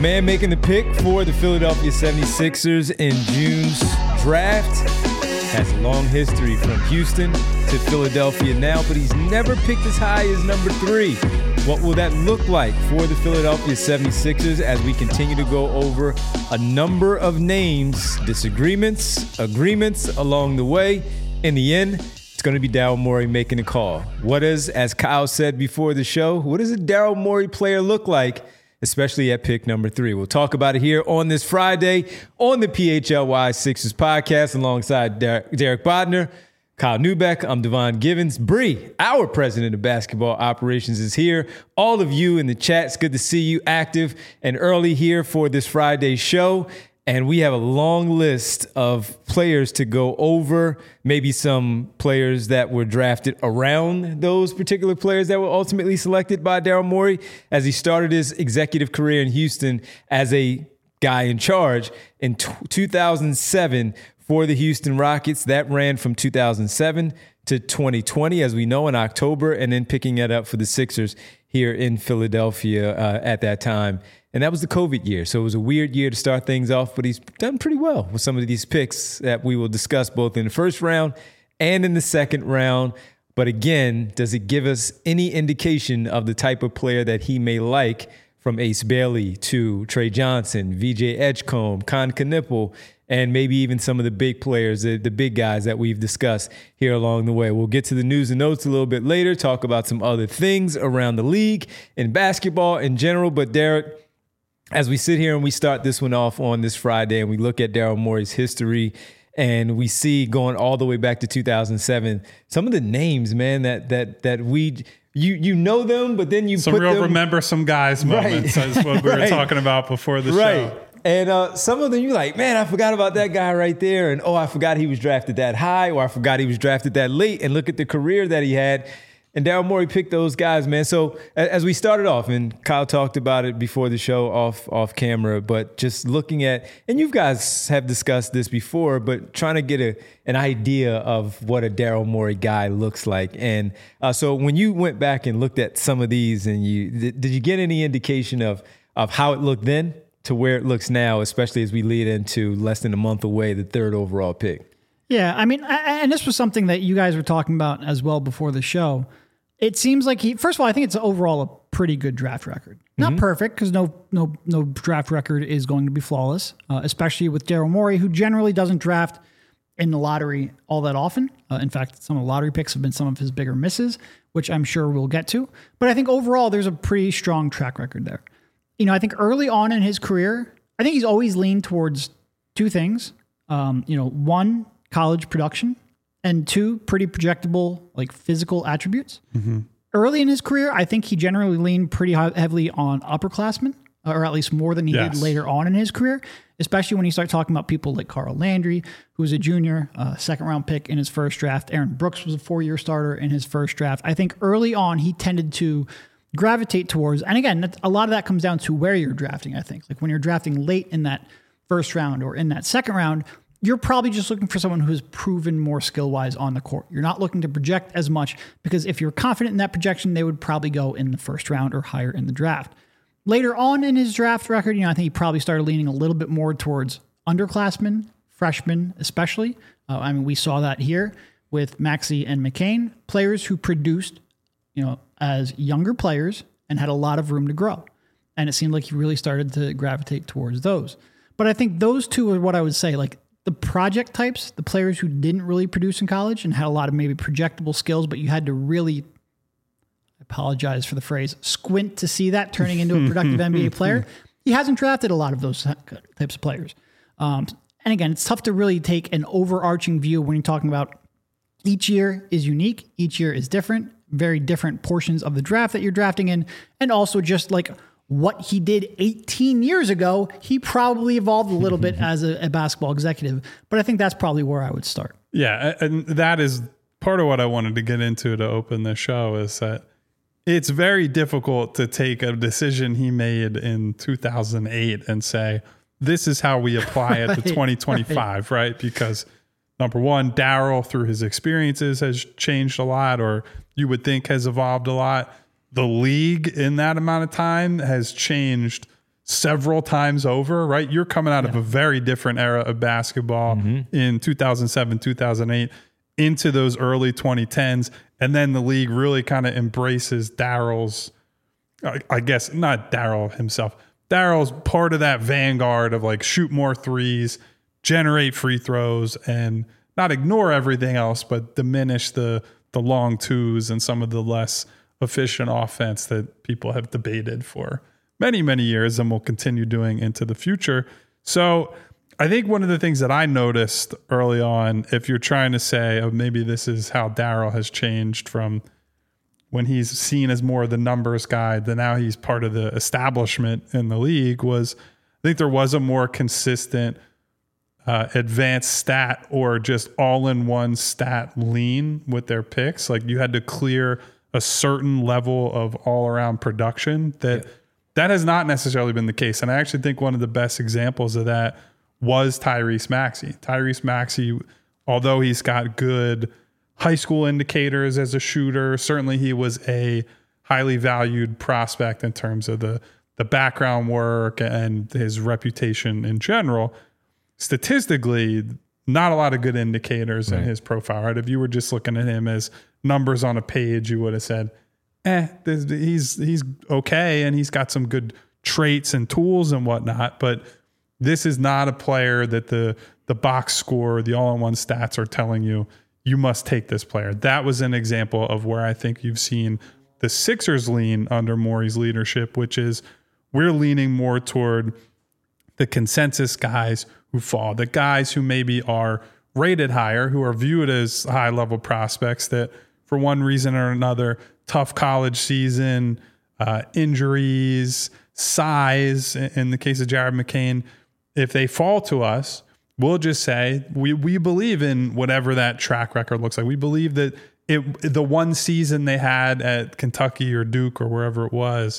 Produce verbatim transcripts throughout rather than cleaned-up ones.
man making the pick for the Philadelphia seventy-sixers in June's draft. Has a long history from Houston to Philadelphia now, but he's never picked as high as number three. What will that look like for the Philadelphia seventy-sixers as we continue to go over a number of names, disagreements, agreements along the way? In the end, it's going to be Daryl Morey making the call. What is, as Kyle said before the show, what does a Daryl Morey player look like, especially at pick number three? We'll talk about it here on this Friday on the P H L Y Sixers podcast alongside Der- Derek Bodner, Kyle Neubeck. I'm Devon Givens. Bree, our president of basketball operations, is here. All of you in the chat, it's good to see you active and early here for this Friday show. And we have a long list of players to go over, maybe some players that were drafted around those particular players that were ultimately selected by Daryl Morey as he started his executive career in Houston as a guy in charge in two thousand seven for the Houston Rockets. That ran from two thousand seven to twenty twenty, as we know, in October, and then picking it up for the Sixers here in Philadelphia uh, at that time. And that was the COVID year. So it was a weird year to start things off, but he's done pretty well with some of these picks that we will discuss both in the first round and in the second round. But again, does it give us any indication of the type of player that he may like, from Ace Bailey to Trey Johnson, V J Edgecombe, Con Knipple, and maybe even some of the big players, the, the big guys that we've discussed here along the way. We'll get to the news and notes a little bit later, talk about some other things around the league and basketball in general. But Derek, as we sit here and we start this one off on this Friday and we look at Daryl Morey's history and we see going all the way back to two thousand seven, some of the names, man, that that that we you you know them, but then you some put real them, remember some guys moments. Right. That's what we were right. talking about before the right. show. And uh, some of them you're like, man, I forgot about that guy right there. And, oh, I forgot he was drafted that high, or I forgot he was drafted that late. And look at the career that he had. And Daryl Morey picked those guys, man. So as we started off, and Kyle talked about it before the show off off camera, but just looking at, and you guys have discussed this before, but trying to get a an idea of what a Daryl Morey guy looks like. And uh, so when you went back and looked at some of these, and you did, did you get any indication of of how it looked then to where it looks now, especially as we lead into less than a month away, the third overall pick? Yeah, I mean, and this was something that you guys were talking about as well before the show. It seems like he, first of all, I think it's overall a pretty good draft record. Not mm-hmm. perfect, because no no no draft record is going to be flawless, uh, especially with Daryl Morey, who generally doesn't draft in the lottery all that often. Uh, in fact, some of the lottery picks have been some of his bigger misses, which I'm sure we'll get to. But I think overall, there's a pretty strong track record there. You know, I think early on in his career, I think he's always leaned towards two things. Um, you know, one, college production, and two, pretty projectable, like physical attributes. Mm-hmm. Early in his career, I think he generally leaned pretty heavily on upperclassmen, or at least more than he yes. did later on in his career, especially when you start talking about people like Carl Landry, who was a junior, uh, second round pick in his first draft. Aaron Brooks was a four-year starter in his first draft. I think early on, he tended to gravitate towards, and again, a lot of that comes down to where you're drafting, I think. Like when you're drafting late in that first round or in that second round, you're probably just looking for someone who's proven more skill-wise on the court. You're not looking to project as much, because if you're confident in that projection, they would probably go in the first round or higher in the draft. Later on in his draft record, you know, I think he probably started leaning a little bit more towards underclassmen, freshmen especially. Uh, I mean, we saw that here with Maxey and McCain, players who produced, you know, as younger players and had a lot of room to grow. And it seemed like he really started to gravitate towards those. But I think those two are what I would say, like, the project types, the players who didn't really produce in college and had a lot of maybe projectable skills, but you had to really, I apologize for the phrase, squint to see that turning into a productive N B A player. He hasn't drafted a lot of those types of players. Um, and again, it's tough to really take an overarching view when you're talking about each year is unique, each year is different, very different portions of the draft that you're drafting in, and also just like what he did eighteen years ago, he probably evolved a little bit as a, a basketball executive. But I think that's probably where I would start. Yeah, and that is part of what I wanted to get into to open the show, is that it's very difficult to take a decision he made in two thousand eight and say, this is how we apply it right, to twenty twenty-five, right? right? Because number one, Daryl, through his experiences, has changed a lot, or you would think has evolved a lot. The league in that amount of time has changed several times over, right? You're coming out yeah. of a very different era of basketball mm-hmm. in two thousand seven, two thousand eight into those early twenty tens. And then the league really kind of embraces Daryl's, I, I guess not Daryl himself. Daryl's part of that vanguard of like shoot more threes, generate free throws, and not ignore everything else, but diminish the the long twos and some of the less efficient offense that people have debated for many, many years and will continue doing into the future. So I think one of the things that I noticed early on, if you're trying to say, oh, maybe this is how Daryl has changed from when he's seen as more of the numbers guy, then now he's part of the establishment in the league, was I think there was a more consistent uh, advanced stat or just all-in-one stat lean with their picks. Like you had to clear a certain level of all-around production that yeah. that has not necessarily been the case. And I actually think one of the best examples of that was Tyrese Maxey. Tyrese Maxey, although he's got good high school indicators as a shooter, certainly he was a highly valued prospect in terms of the, the background work and his reputation in general. Statistically, not a lot of good indicators right. in his profile, right? If you were just looking at him as numbers on a page, you would have said, eh, this, he's he's okay, and he's got some good traits and tools and whatnot, but this is not a player that the the box score, the all-in-one stats are telling you, you must take this player. That was an example of where I think you've seen the Sixers lean under Morey's leadership, which is we're leaning more toward the consensus guys who fall, the guys who maybe are rated higher, who are viewed as high-level prospects that for one reason or another, tough college season, uh, injuries, size, in the case of Jared McCain, if they fall to us, we'll just say we we believe in whatever that track record looks like. We believe that it the one season they had at Kentucky or Duke or wherever it was,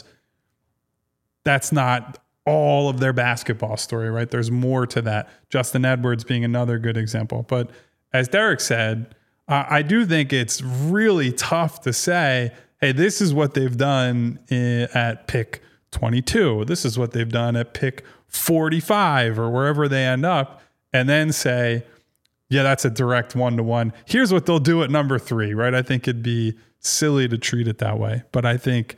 that's not all of their basketball story, right? There's more to that. Justin Edwards being another good example. But as Derek said, uh, I do think it's really tough to say, hey, this is what they've done in, at pick twenty-two. This is what they've done at pick forty-five or wherever they end up, and then say, yeah, that's a direct one-to-one. Here's what they'll do at number three, right? I think it'd be silly to treat it that way. But I think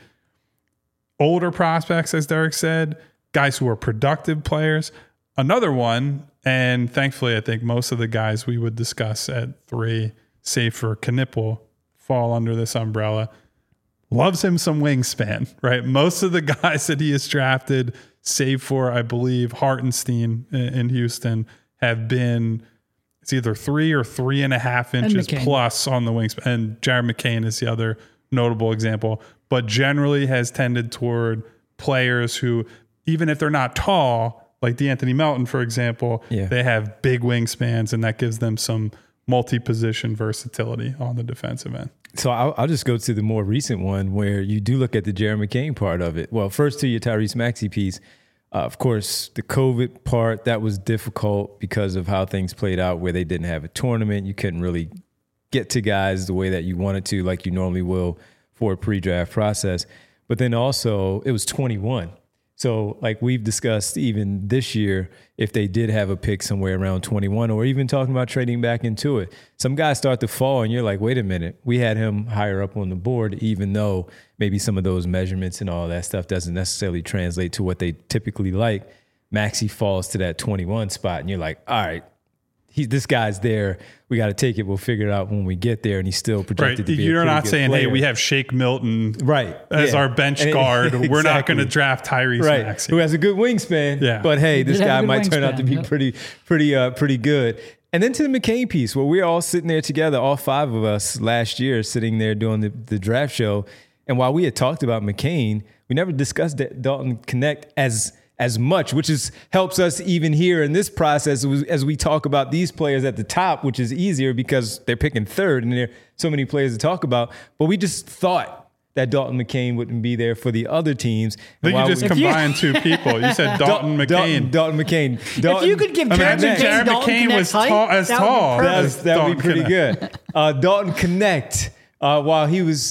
older prospects, as Derek said, guys who are productive players, another one, and thankfully I think most of the guys we would discuss at three, save for Knipple, fall under this umbrella, loves him some wingspan, right? Most of the guys that he has drafted, save for, I believe, Hartenstein in Houston, have been, it's either three or three and a half inches plus on the wingspan. And Jared McCain is the other notable example, but generally has tended toward players who, even if they're not tall, like DeAnthony Melton, for example, yeah. they have big wingspans, and that gives them some multi-position versatility on the defensive end. So I'll, I'll just go to the more recent one where you do look at the Jared McCain part of it. Well, first to your Tyrese Maxey piece, uh, of course, the COVID part, that was difficult because of how things played out where they didn't have a tournament. You couldn't really get to guys the way that you wanted to, like you normally will for a pre-draft process. But then also it was twenty-one. So like we've discussed even this year, if they did have a pick somewhere around twenty-one, or even talking about trading back into it, some guys start to fall and you're like, wait a minute, we had him higher up on the board, even though maybe some of those measurements and all that stuff doesn't necessarily translate to what they typically like. Maxey falls to that twenty-one spot and you're like, all right, he, this guy's there. We got to take it. We'll figure it out when we get there. And he's still projected right. to be You're a not good saying, player. hey, we have Shake Milton right. as yeah. our bench and guard. It, exactly. We're not going to draft Tyrese right. Maxey. Who has a good wingspan. Yeah. But hey, this guy might wingspan, turn out to be yep. pretty, pretty, uh, pretty good. And then to the McCain piece, where we're all sitting there together, all five of us last year sitting there doing the, the draft show. And while we had talked about McCain, we never discussed Dalton Knecht as as much, which is helps us even here in this process as we talk about these players at the top, which is easier because they're picking third and there are so many players to talk about. But we just thought that Dalton McCain wouldn't be there for the other teams. I think you just we, combined two people. You said Dalton Dal- McCain. Dalton, Dalton McCain. Dalton, if you could give Jared McCain, Jared Dalton McCain was height, tall, as that tall. Would that would be pretty Knecht. good. Uh, Dalton Knecht, uh, while he was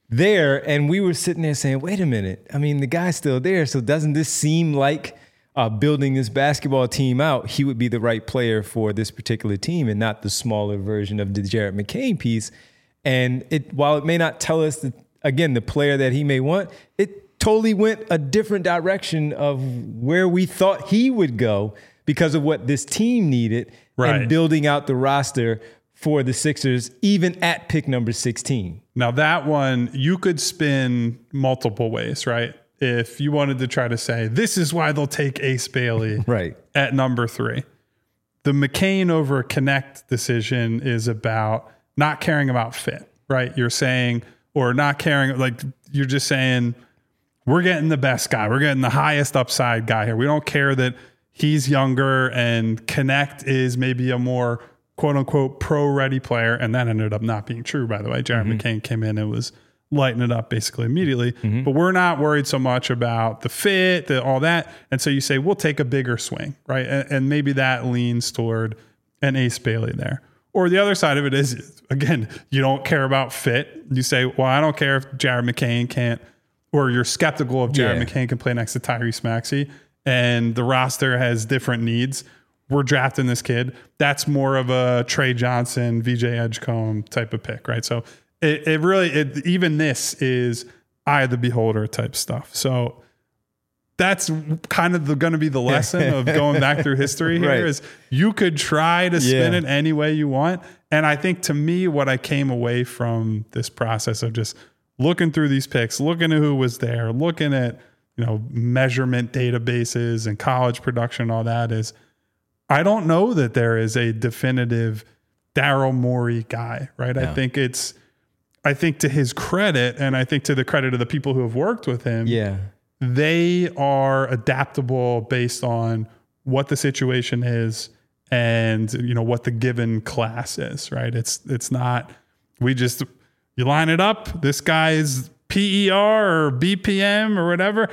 there, and we were sitting there saying, wait a minute. I mean, the guy's still there. So doesn't this seem like uh, building this basketball team out, he would be the right player for this particular team and not the smaller version of the Jared McCain piece. And it, while it may not tell us, that, again, the player that he may want, it totally went a different direction of where we thought he would go because of what this team needed right. and building out the roster for the Sixers, even at pick number sixteen. Now that one, you could spin multiple ways, right? If you wanted to try to say, this is why they'll take Ace Bailey right. at number three. The McCain over Connect decision is about not caring about fit, right? You're saying, or not caring, like you're just saying, we're getting the best guy. We're getting the highest upside guy here. We don't care that he's younger and Connect is maybe a more quote unquote pro-ready player. And that ended up not being true, by the way. Jared mm-hmm. McCain came in and was lighting it up basically immediately. Mm-hmm. But we're not worried so much about the fit, the, all that. And so you say, we'll take a bigger swing, right? And, and maybe that leans toward an Ace Bailey there. Or the other side of it is, again, you don't care about fit. You say, well, I don't care if Jared McCain can't, or you're skeptical if Jared yeah. McCain can play next to Tyrese Maxey and the roster has different needs. We're drafting this kid. That's more of a Trey Johnson, V J Edgecombe type of pick, right? So it, it really, it, even this is eye of the beholder type stuff. So that's kind of going to be the lesson of going back through history here right. is you could try to spin yeah. it any way you want. And I think to me, what I came away from this process of just looking through these picks, looking at who was there, looking at, you know, measurement databases and college production and all that is, I don't know that there is a definitive Daryl Morey guy, right? No. I think it's, I think to his credit, and I think to the credit of the people who have worked with him, yeah, they are adaptable based on what the situation is and, you know, what the given class is, right? It's, it's not, we just, you line it up, this guy's P E R or B P M or whatever,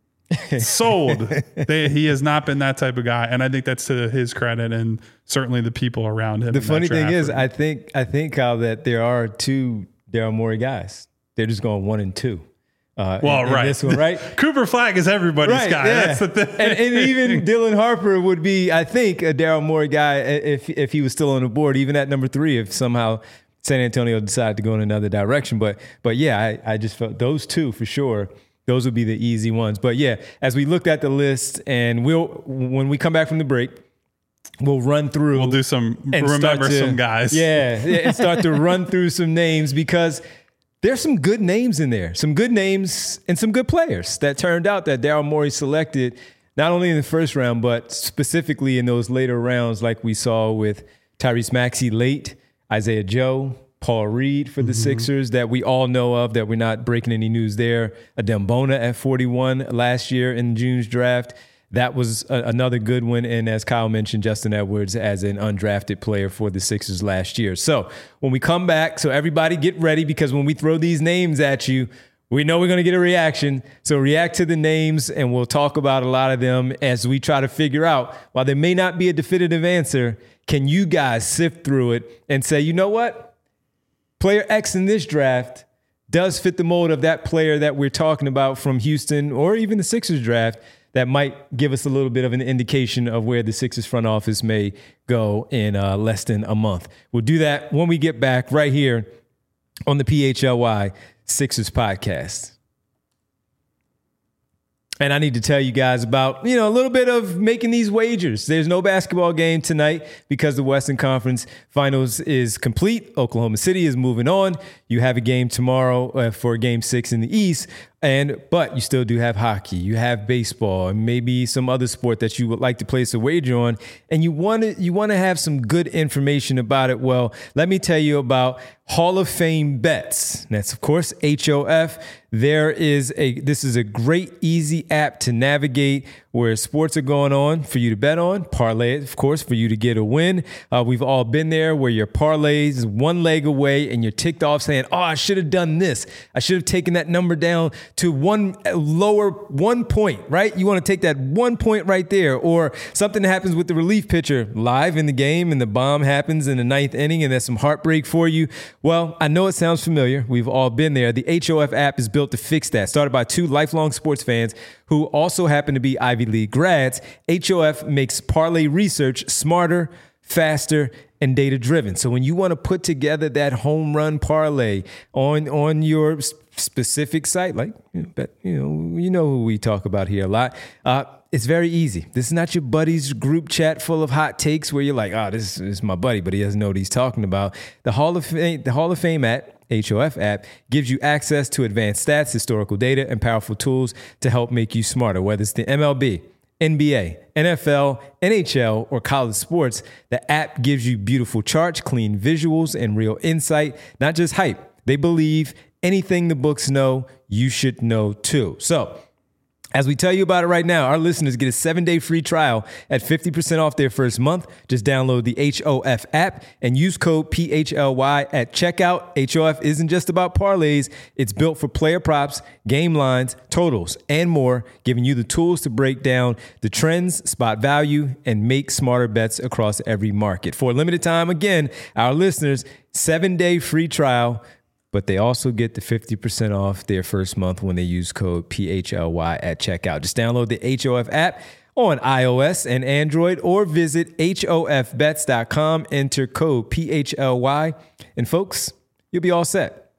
sold. They, he has not been that type of guy, and I think that's to his credit and certainly the people around him. The funny thing is, I think I think how that there are two Daryl Morey guys. They're just going one and two. Uh, well, in, right, in this one, right. Cooper Flagg is everybody's right, guy. Yeah. That's the thing. And, and even Dylan Harper would be, I think, a Daryl Morey guy if if he was still on the board, even at number three. If somehow San Antonio decided to go in another direction, but but yeah, I, I just felt those two for sure. Those would be the easy ones. But yeah, as we looked at the list, and we'll when we come back from the break, we'll run through. We'll do some remember to, some guys. Yeah, and start to run through some names because there's some good names in there, some good names and some good players that turned out that Daryl Morey selected not only in the first round, but specifically in those later rounds, like we saw with Tyrese Maxey late, Isaiah Joe, Paul Reed for the mm-hmm. Sixers that we all know of, that we're not breaking any news there. Adem Bona at forty-one last year in June's draft. That was a, another good one. And as Kyle mentioned, Justin Edwards as an undrafted player for the Sixers last year. So when we come back, so everybody get ready, because when we throw these names at you, we know we're going to get a reaction. So react to the names, and we'll talk about a lot of them as we try to figure out, while there may not be a definitive answer, can you guys sift through it and say, you know what? Player X in this draft does fit the mold of that player that we're talking about from Houston or even the Sixers draft that might give us a little bit of an indication of where the Sixers front office may go in uh, less than a month. We'll do that when we get back right here on the P H L Y Sixers podcast. And I need to tell you guys about, you know, a little bit of making these wagers. There's no basketball game tonight because the Western Conference Finals is complete. Oklahoma City is moving on. You have a game tomorrow uh, for game six in the East. And but you still do have hockey, you have baseball, and maybe some other sport that you would like to place a wager on, and you want to you want to have some good information about it. Well, let me tell you about Hall of Fame Bets. That's of course H O F. There is a this is a great easy app to navigate where sports are going on for you to bet on. Parlay, of course, for you to get a win. Uh, we've all been there where your parlays is one leg away and you're ticked off saying, "Oh, I should have done this. I should have taken that number down to one lower one point, right? You want to take that one point right there, or something that happens with the relief pitcher live in the game and the bomb happens in the ninth inning and there's some heartbreak for you. Well, I know it sounds familiar. We've all been there. The H O F app is built to fix that. Started by two lifelong sports fans who also happen to be Ivy League grads. H O F makes parlay research smarter, faster, and data-driven. So when you want to put together that home run parlay on, on your specific site, like, you know, you know, you know who we talk about here a lot, uh, it's very easy. This is not your buddy's group chat full of hot takes where you're like, oh, this, this is my buddy, but he doesn't know what he's talking about. The Hall of Fame, the Hall of Fame app, H O F app, gives you access to advanced stats, historical data, and powerful tools to help make you smarter, whether it's the M L B, N B A, N F L, N H L, or college sports. The app gives you beautiful charts, clean visuals, and real insight, not just hype. They believe anything the books know, you should know too. So, as we tell you about it right now, our listeners get a seven-day free trial at fifty percent off their first month. Just download the H O F app and use code P H L Y at checkout. H O F isn't just about parlays. It's built for player props, game lines, totals, and more, giving you the tools to break down the trends, spot value, and make smarter bets across every market. For a limited time, again, our listeners, seven-day free trial, but they also get the fifty percent off their first month when they use code P H L Y at checkout. Just download the H O F app on iOS and Android or visit H O F bets dot com, enter code P H L Y, and folks, you'll be all set.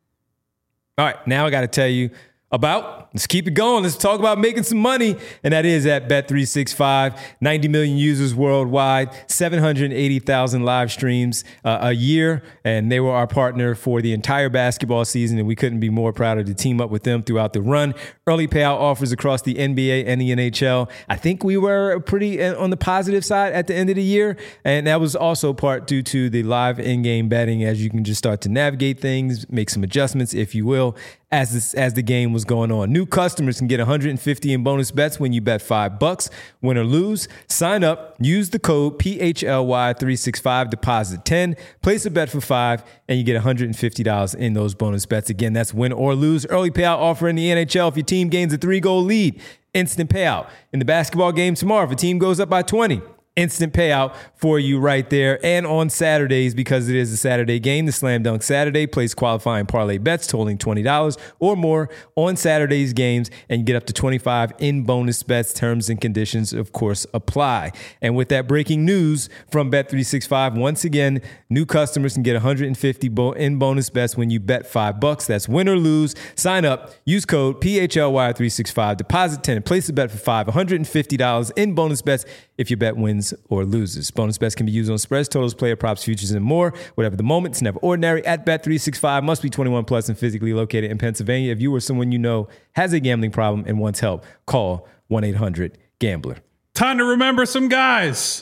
All right, now I got to tell you about, let's keep it going. Let's talk about making some money. And that is at Bet three sixty-five, ninety million users worldwide, seven hundred eighty thousand live streams uh, a year. And they were our partner for the entire basketball season. And we couldn't be more proud to team up with them throughout the run. Early payout offers across the N B A and the N H L. I think we were pretty on the positive side at the end of the year. And that was also part due to the live in-game betting, as you can just start to navigate things, make some adjustments, if you will, as this, as the game was going on. New customers can get one hundred fifty in bonus bets when you bet five bucks, win or lose. Sign up, use the code P H L Y three sixty-five, deposit ten, place a bet for five, and you get one hundred fifty dollars in those bonus bets. Again, that's win or lose. Early payout offer in the N H L if your team gains a three-goal lead. Instant payout. In the basketball game tomorrow, if a team goes up by twenty, instant payout for you right there. And on Saturdays, because it is a Saturday game, the Slam Dunk Saturday, place qualifying parlay bets totaling twenty dollars or more on Saturday's games and get up to twenty-five in bonus bets. Terms and conditions, of course, apply. And with that breaking news from Bet three sixty-five, once again, new customers can get one hundred fifty in bonus bets when you bet five bucks. That's win or lose. Sign up, use code P H L Y three sixty-five, deposit ten, and place a bet for five, one hundred fifty dollars in bonus bets if your bet wins or loses. Bonus bets can be used on spreads, totals, player props, futures, and more. Whatever the moment, it's never ordinary. At Bet three sixty-five, must be twenty-one plus and physically located in Pennsylvania. If you or someone you know has a gambling problem and wants help, call one eight hundred gambler. Time to remember some guys.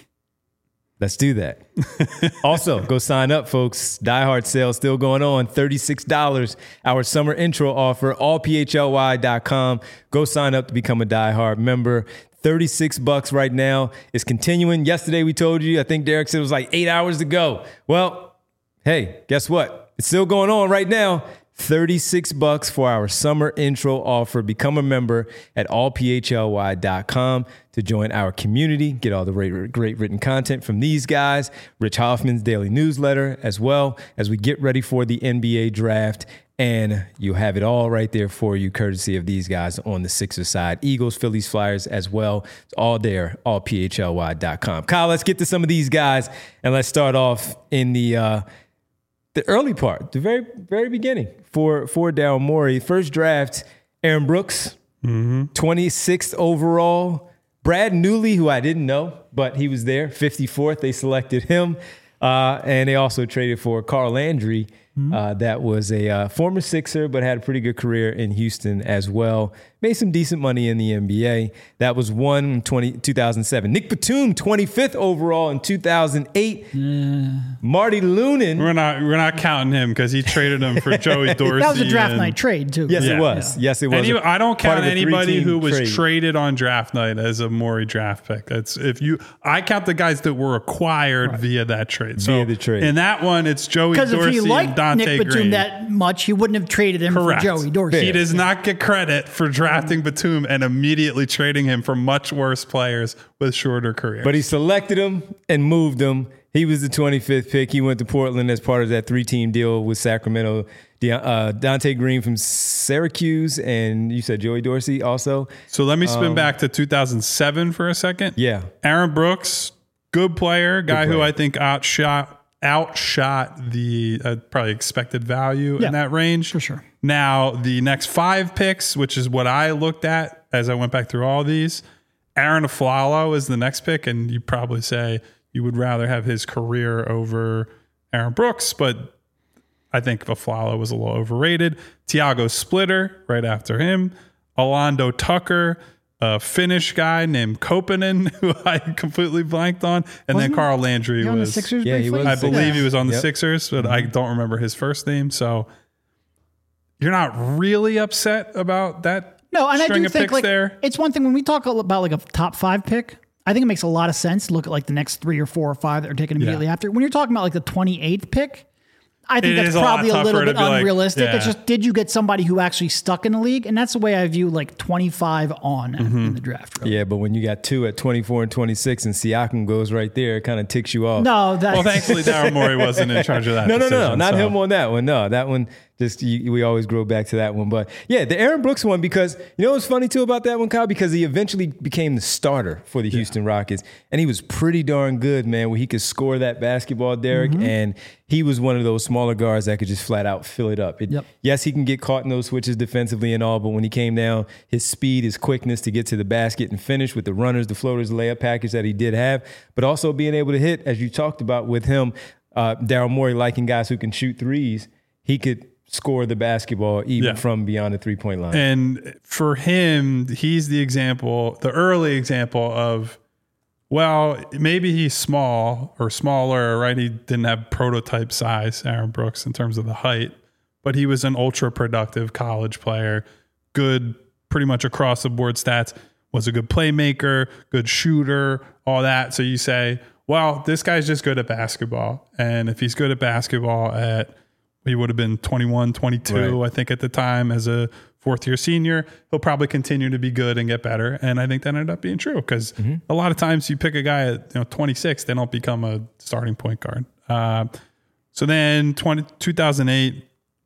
Let's do that. Also, go sign up, folks. Die Hard sale still going on. thirty-six dollars. Our summer intro offer, all P H L Y dot com. Go sign up to become a Die Hard member. thirty-six bucks right now. It's continuing. Yesterday we told you, I think Derek said it was like eight hours to go. Well, hey, guess what? It's still going on right now. thirty-six bucks for our summer intro offer. Become a member at all P H L Y dot com to join our community. Get all the great, great written content from these guys. Rich Hoffman's daily newsletter, as well as we get ready for the N B A draft. And you have it all right there for you, courtesy of these guys on the Sixers side. Eagles, Phillies, Flyers as well. It's all there, all P H L Y dot com. Kyle, let's get to some of these guys, and let's start off in the uh, the early part, the very very beginning for, for Daryl Morey. First draft, Aaron Brooks, mm-hmm. twenty-sixth overall. Brad Newley, who I didn't know, but he was there, fifty-fourth. They selected him. Uh, and they also traded for Carl Landry. Uh, that was a uh, former Sixer, but had a pretty good career in Houston as well. Made some decent money in the N B A. That was one in two thousand seven. Nick Batum, twenty-fifth overall in two thousand eight. Yeah. Marty Lunin. We're not we're not counting him because he traded him for Joey Dorsey. That was a draft and, night trade, too. Yes, yeah. it was. Yeah. Yes, it was. And he, I don't count anybody who was trade. traded on draft night as a Morey draft pick. That's if you. I count the guys that were acquired right. via that trade. So via the trade. In that one, it's Joey Dorsey if he liked, and Dante Nick Batum Green. that much, he wouldn't have traded him Correct. for Joey Dorsey. He does not get credit for drafting Batum and immediately trading him for much worse players with shorter careers. But he selected him and moved him. He was the twenty-fifth pick. He went to Portland as part of that three-team deal with Sacramento. De- uh, Dante Green from Syracuse, and you said Joey Dorsey also. So let me spin Um, back to two thousand seven for a second. Yeah. Aaron Brooks, good player, guy player. who I think outshot outshot the uh, probably expected value Yeah, in that range. for sure. Now, the next five picks, which is what I looked at as I went back through all these, Aaron Aflalo is the next pick, and you probably say you would rather have his career over Aaron Brooks, but I think Aflalo was a little overrated. Tiago Splitter right after him. Orlando Tucker, a Finnish guy named Koponen, who I completely blanked on. And Wasn't then Carl Landry He on the was. Sixers Yeah, he briefly? was. I believe he was on the Yep. Sixers, but I don't remember his first name. So you're not really upset about that No, and I string do of think picks like there? it's one thing when we talk about like a top five pick. I think it makes a lot of sense to look at like the next three or four or five that are taken immediately Yeah. after. When you're talking about like the twenty-eighth pick, I think It that's is a lot probably a, tougher little to bit be like, unrealistic. It's yeah. just, did you get somebody who actually stuck in the league? And that's the way I view like twenty-five on Mm-hmm. in the draft. Really. Yeah, but when you got two at twenty-four and twenty-six and Siakam goes right there, it kind of ticks you off. No, that, Well, thankfully, Daryl Morey wasn't in charge of that. No, no, no, no, decision, not so. him on that one. No, that one just you, we always grow back to that one. But yeah, the Aaron Brooks one, because you know what's funny too about that one, Kyle, because he eventually became the starter for the Houston Rockets, and he was pretty darn good, man. Where he could score that basketball, Derek, Mm-hmm. and he was one of those smaller guards that could just flat out fill it up. It, Yep. Yes, he can get caught in those switches defensively and all, but when he came down, his speed, his quickness to get to the basket and finish with the runners, the floaters, the layup package that he did have, but also being able to hit, as you talked about with him, uh, Daryl Morey liking guys who can shoot threes, he could score the basketball even Yeah. from beyond the three-point line. And for him, he's the example, the early example of, well, maybe he's small or smaller, right? He didn't have prototype size, Aaron Brooks, in terms of the height, but he was an ultra productive college player, good pretty much across the board stats, was a good playmaker, good shooter, all that. So you say, well, this guy's just good at basketball. And if he's good at basketball at, he would have been twenty-one, twenty-two, Right. I think at the time as a fourth year senior, he'll probably continue to be good and get better. And I think that ended up being true because Mm-hmm. a lot of times you pick a guy at you know twenty-six, they don't become a starting point guard. Uh, so then twenty, two thousand eight,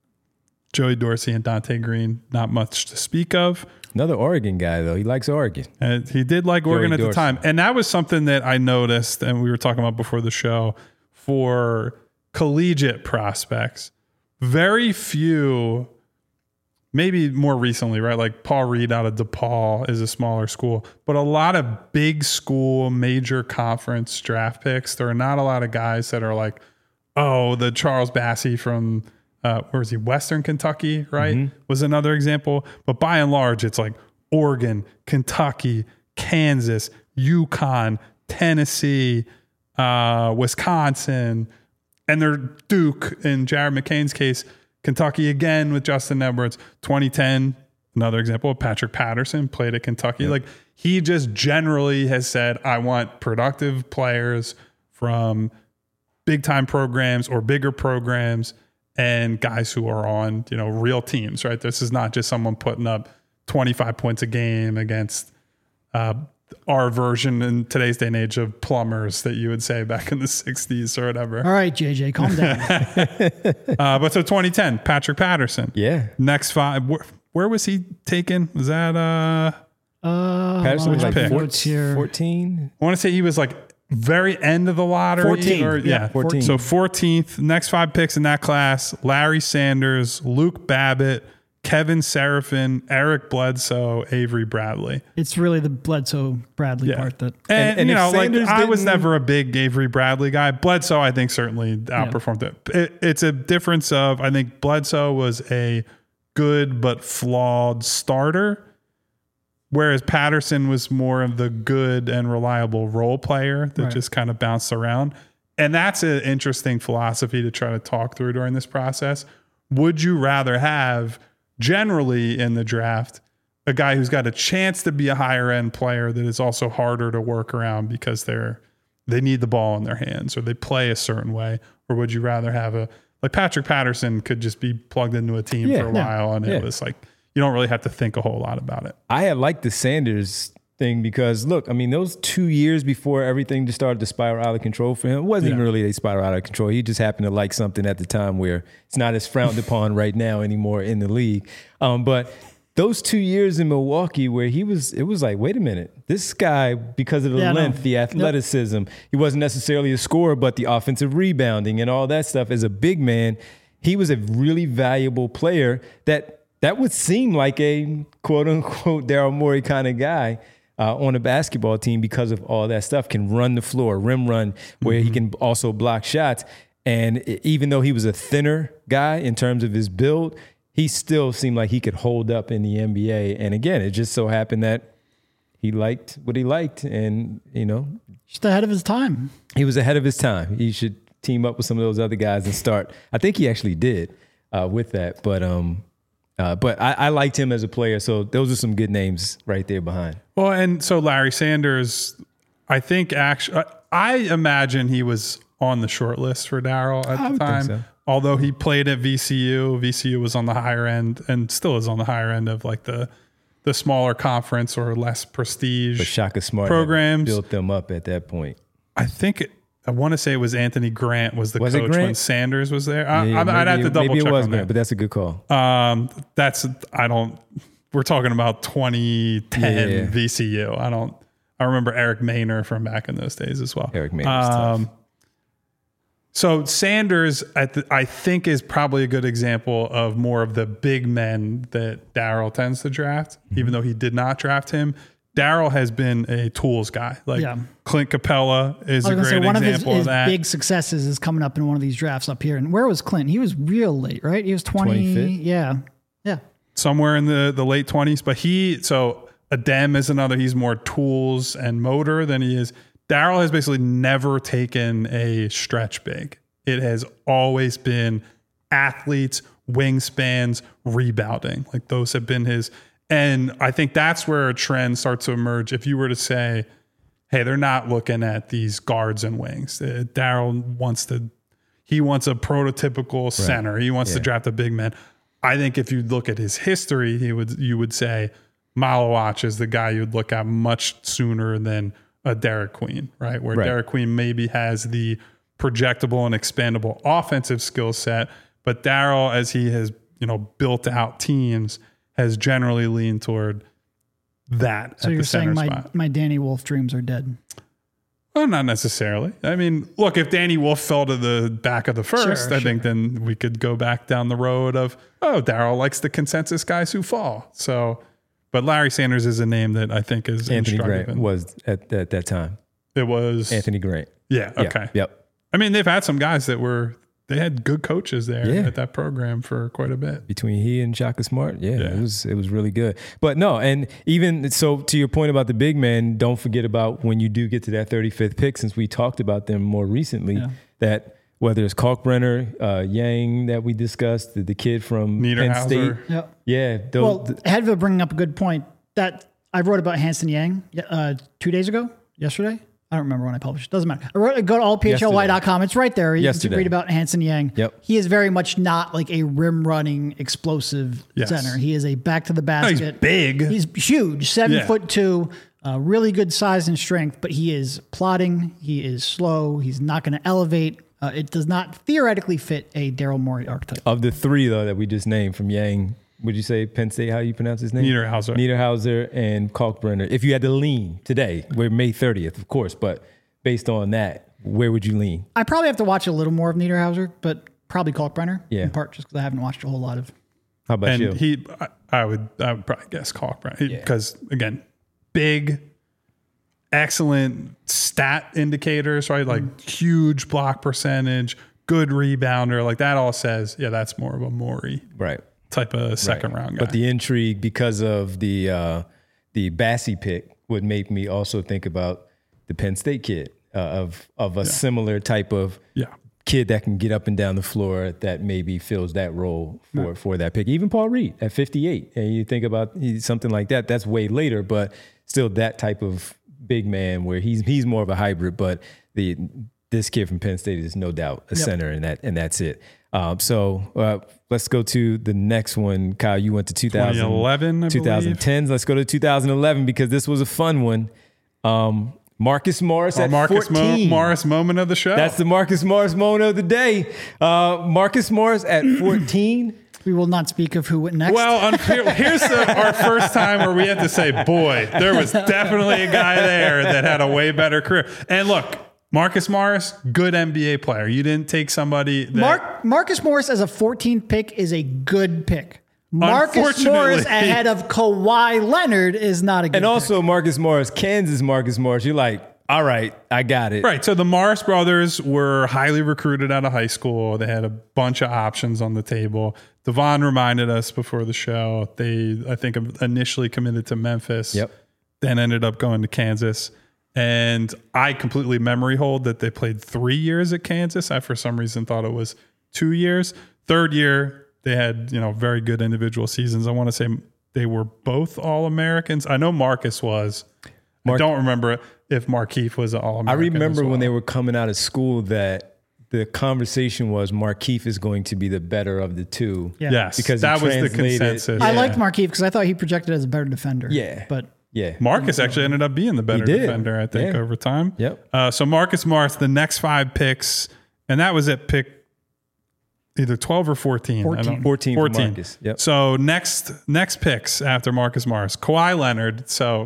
Joey Dorsey and Dante Green, not much to speak of. Another Oregon guy, though. He likes Oregon. And he did like Oregon at the Dorsey. time. And that was something that I noticed, and we were talking about before the show, for collegiate prospects. Very few, maybe more recently, right? Like Paul Reed out of DePaul is a smaller school, but a lot of big school, major conference draft picks. There are not a lot of guys that are like, oh, the Charles Bassey from, uh, where was he? Western Kentucky, right? Mm-hmm. Was another example. But by and large, it's like Oregon, Kentucky, Kansas, UConn, Tennessee, uh, Wisconsin, and they're Duke in Jared McCain's case, Kentucky again with Justin Edwards. twenty ten, another example of Patrick Patterson played at Kentucky. Like he just generally has said, I want productive players from big time programs or bigger programs and guys who are on, you know, real teams, right? This is not just someone putting up twenty-five points a game against uh, our version in today's day and age of plumbers that you would say back in the sixties or whatever. All right, J J, calm down. Uh, but so twenty ten, Patrick Patterson. Yeah. Next five. Where, where was he taken? Was that, uh, Uh, Patterson was hold like on, pick? notes here. fourteen. I want to say he was like very end of the lottery. fourteen. Or, Yeah, yeah, fourteen. So fourteenth, next five picks in that class, Larry Sanders, Luke Babbitt, Kevin Seraphin, Eric Bledsoe, Avery Bradley. It's really the Bledsoe Bradley Yeah. part that. And, And- and you if know, like Sanders I was didn't- never a big Avery Bradley guy. Bledsoe, I think, certainly outperformed it. it. It's a difference of, I think Bledsoe was a good but flawed starter, whereas Patterson was more of the good and reliable role player that Right. just kind of bounced around. And that's an interesting philosophy to try to talk through during this process. Would you rather have, generally in the draft, a guy who's got a chance to be a higher end player that is also harder to work around because they're they need the ball in their hands or they play a certain way? Or would you rather have a like Patrick Patterson could just be plugged into a team Yeah. for a Yeah. while, and Yeah. it was like you don't really have to think a whole lot about it. I had liked the Sanders thing because look, I mean, those two years before everything just started to spiral out of control for him, it wasn't Yeah. even really a spiral out of control. He just happened to like something at the time where it's not as frowned upon right now anymore in the league. Um, but those two years in Milwaukee where he was, it was like, wait a minute, this guy, because of the Yeah, no. length, the athleticism, he wasn't necessarily a scorer, but the offensive rebounding and all that stuff as a big man, he was a really valuable player that that would seem like a quote unquote Daryl Morey kind of guy uh, on a basketball team because of all that stuff, can run the floor, rim run, where mm-hmm. he can also block shots. And even though he was a thinner guy in terms of his build, he still seemed like he could hold up in the N B A. And again, it just so happened that he liked what he liked. And, you know, just ahead of his time. He was ahead of his time. He should team up with some of those other guys and start. I think he actually did uh, with that. But, um, Uh, but I, I liked him as a player, so those are some good names right there behind. Well, and so Larry Sanders, I think actually, I imagine he was on the short list for Daryl at I the would time. think so. Although he played at V C U, V C U was on the higher end and still is on the higher end of like the the smaller conference or less prestige But Shaka Smart programs. built them up at that point. I think it, I want to say it was Anthony Grant was the Was it coach Grant? when Sanders was there. I, Yeah, I'd maybe have to it- double maybe check it was on Grant, that. but that's a good call. Um, that's I don't. We're talking about twenty ten Yeah. V C U. I don't. I remember Eric Maynor from back in those days as well. Eric Maynor's tough. So Sanders, at the, I think, is probably a good example of more of the big men that Daryl tends to draft, Mm-hmm. even though he did not draft him. Daryl has been a tools guy. Like Yeah. Clint Capella is I a was great gonna say one of his, example his of that. big successes is coming up in one of these drafts up here. And where was Clint? He was real late, right? He was twenty. twenty-fifth? Yeah, yeah. Somewhere in the, the late twenties. But he, so Adem is another, he's more tools and motor than he is. Daryl has basically never taken a stretch big. It has always been athletes, wingspans, rebounding. Like those have been his. And I think that's where a trend starts to emerge. If you were to say, hey, they're not looking at these guards and wings. Uh, Daryl wants to, he wants a prototypical center. He wants Yeah. to draft a big man. I think if you look at his history, he would you would say Malawach is the guy you'd look at much sooner than a Derek Queen, right? Where Right. Derek Queen maybe has the projectable and expandable offensive skill set, but Daryl, as he has, you know, built out teams, has generally leaned toward that So at you're the center saying my, spot. my Danny Wolf dreams are dead. Well, not necessarily. I mean, look, if Danny Wolf fell to the back of the first, Sure, I think then we could go back down the road of, oh, Daryl likes the consensus guys who fall. So, but Larry Sanders is a name that I think is Anthony instructive. Grant in- was at, at that time. It was Anthony Grant. Yeah. Yeah, Okay. Yep. I mean, they've had some guys that were they had good coaches there Yeah. at that program for quite a bit. Between he and Shaka Smart, yeah, Yeah. it was it was really good. But no, and even so, to your point about the big men, don't forget about when you do get to that thirty-fifth pick, since we talked about them more recently, Yeah. that whether it's Kalkbrenner, uh, Yang that we discussed, the, the kid from Penn Niederhauser. State, Yep. yeah, those, Well, th- Hedva bringing up a good point. That I wrote about Hanson Yang uh, two days ago, yesterday. I don't remember when I published. Doesn't matter. I wrote, go to all p h l y dot com. It's right there. You Yesterday. can read about Hanson Yang. Yep. He is very much not like a rim running explosive Yes. center. He is a back to the No, he's basket. big. He's huge, seven Yeah. foot two, uh, really good size and strength, but he is plodding. He is slow. He's not going to elevate. Uh, it does not theoretically fit a Daryl Morey archetype. of the three though that we just named from Yang, would you say Penn State? How you pronounce his name? Niederhauser. Niederhauser and Kalkbrenner. If you had to lean today, we're May thirtieth, of course, but based on that, where would you lean? I probably have to watch a little more of Niederhauser, but probably Kalkbrenner. Yeah. In part just because I haven't watched a whole lot of. How about you? and he, I, I would, I would probably guess Kalkbrenner because again, big, excellent stat indicators, right? Like Mm. huge block percentage, good rebounder, like that all says, yeah, that's more of a Morey right. type of second round guy. But the intrigue because of the uh, the Bassey pick would make me also think about the Penn State kid uh, of of a similar type of yeah, kid that can get up and down the floor that maybe fills that role for, for that pick. Even Paul Reed at fifty-eight. And you think about something like that, that's way later, but still that type of big man where he's he's more of a hybrid, but the this kid from Penn State is no doubt a Yep. center, and that and that's it. Um, so uh, let's go to the next one. Kyle, you went to two thousand twenty eleven, I twenty tens. Let's go to two thousand eleven because this was a fun one. Um, Marcus Morris Our at Marcus fourteen. Mo- Morris moment of the show. That's the Marcus Morris moment of the day. Uh, Marcus Morris at fourteen. We will not speak of who went next. Well, un- here- here's the, our first time where we have to say, boy, there was definitely a guy there that had a way better career. And look, Marcus Morris, good N B A player. You didn't take somebody that... Mark, Marcus Morris as a fourteenth pick is a good pick. Marcus Morris Unfortunately- ahead of Kawhi Leonard is not a good And pick. also Marcus Morris, Kansas Marcus Morris. You're like, all right, I got it. Right. So the Morris brothers were highly recruited out of high school. They had a bunch of options on the table. Devon reminded us before the show. They, I think, initially committed to Memphis. Yep. Then ended up going to Kansas. And I completely memory hold that they played three years at Kansas. I, for some reason, thought it was two years. Third year, they had, you know, very good individual seasons. I want to say they were both All-Americans. I know Marcus was. Mark- I don't remember if Markieff was an I All-American. remember as well. when they were coming out of school that the conversation was Markieff is going to be the better of the two. Yeah. Yes, Because he that was the translated- consensus. I Yeah. liked Markieff because I thought he projected as a better defender. Yeah. But Yeah. Marcus actually ended up being the better did. defender, I think, Yeah. over time. Yep. Uh, so Marcus Morris, the next five picks, and that was at pick either twelve or fourteen. I fourteen. don't- fourteen for Marcus. Yep. So next next picks after Marcus Morris, Kawhi Leonard. So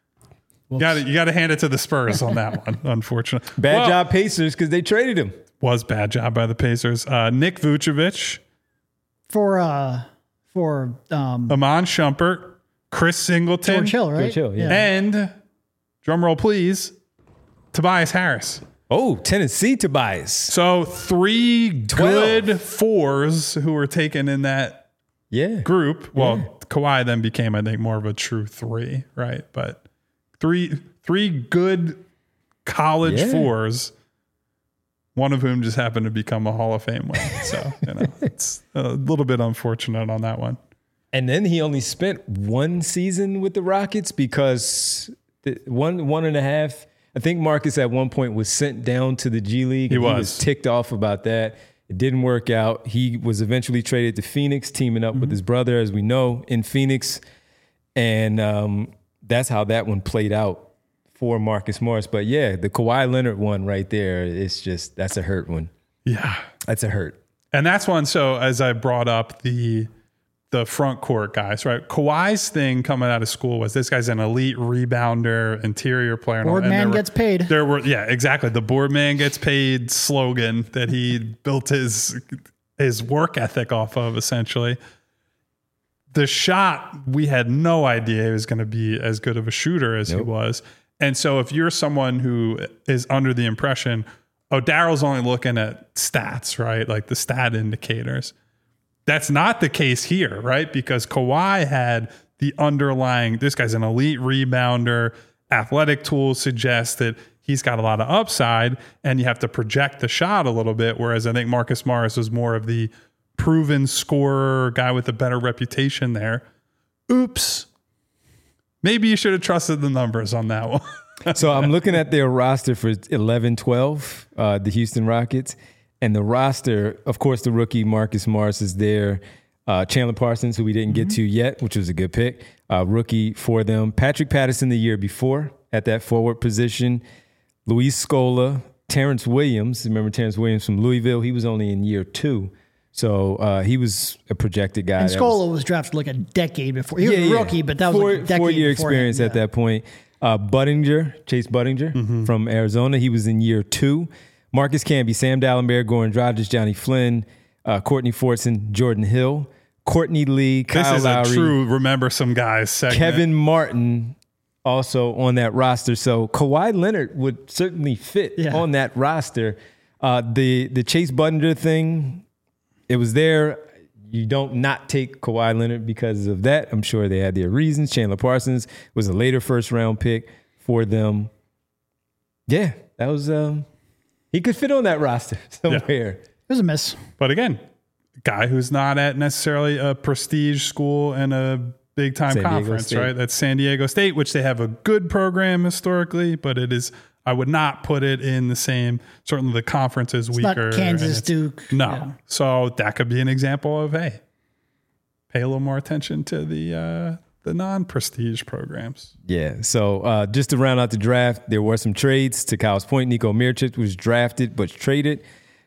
you got you got to hand it to the Spurs on that one. Unfortunately, Bad Well, job Pacers because they traded him. Was bad job by the Pacers. Uh, Nick Vucevic, for uh for um Amon Shumpert, Chris Singleton, George Hill, right? George Hill, yeah. and drum roll please, Tobias Harris. Oh, Tennessee Tobias. So three twelve. good fours who were taken in that Yeah. group. Well, Yeah. Kawhi then became, I think, more of a true three, right? But three three good college Yeah. fours, one of whom just happened to become a Hall of Fame winner. So, you know, it's a little bit unfortunate on that one. And then he only spent one season with the Rockets because the one one and a half. I think Marcus at one point was sent down to the G League. He and was. He was ticked off about that. It didn't work out. He was eventually traded to Phoenix, teaming up with his brother, as we know, in Phoenix. And um, that's how that one played out for Marcus Morris. But yeah, the Kawhi Leonard one right there, it's just, that's a hurt one. Yeah. That's a hurt. And that's one. So as I brought up the the front court guys, right? Kawhi's thing coming out of school was this guy's an elite rebounder, interior player. and all- Board and man there were- gets paid. There were, yeah, exactly. The board man gets paid slogan that he built his his work ethic off of, essentially. The shot, we had no idea he was going to be as good of a shooter as he Nope. was. And so if you're someone who is under the impression, oh, Daryl's only looking at stats, right? Like the stat indicators. That's not the case here, right? Because Kawhi had the underlying, this guy's an elite rebounder. Athletic tools suggest that he's got a lot of upside and you have to project the shot a little bit. Whereas I think Marcus Morris was more of the proven scorer, guy with a better reputation there. Oops. Maybe you should have trusted the numbers on that one. So I'm looking at their roster for eleven twelve, uh, the Houston Rockets. And the roster, of course, the rookie Marcus Morris is there. Uh, Chandler Parsons, who we didn't get to yet, which was a good pick, uh, rookie for them. Patrick Patterson the year before at that forward position. Luis Scola, Terrence Williams. Remember Terrence Williams from Louisville? He was only in year two. So uh, he was a projected guy. And that Scola was- was, drafted like a decade before. He was Yeah, a yeah. rookie, but that was four, like a decade four year before experience him. at that point. Uh, Budinger, Chase Budinger from Arizona. He was in year two. Marcus Camby, Sam Dallenberg, Goran Dragic, Johnny Flynn, uh, Courtney Fortson, Jordan Hill, Courtney Lee, This Kyle is Lowry, a true remember some guys segment. Kevin Martin also on that roster. So Kawhi Leonard would certainly fit Yeah. on that roster. Uh, the the Chase Budinger thing, it was there. You don't not take Kawhi Leonard because of that. I'm sure they had their reasons. Chandler Parsons was a later first round pick for them. Yeah, that was um, he could fit on that roster somewhere. It was a miss. But again, guy who's not at necessarily a prestige school and a big time San Diego conference, State. right? That's San Diego State, which they have a good program historically, but it is I would not put it in the same, certainly the conference is It's weaker. not Kansas, Duke. No. Yeah. So that could be an example of, hey, pay a little more attention to the uh, the non-prestige programs. Yeah. So uh, just to round out the draft, there were some trades. To Kyle's point, Nico Mirchik was drafted but traded.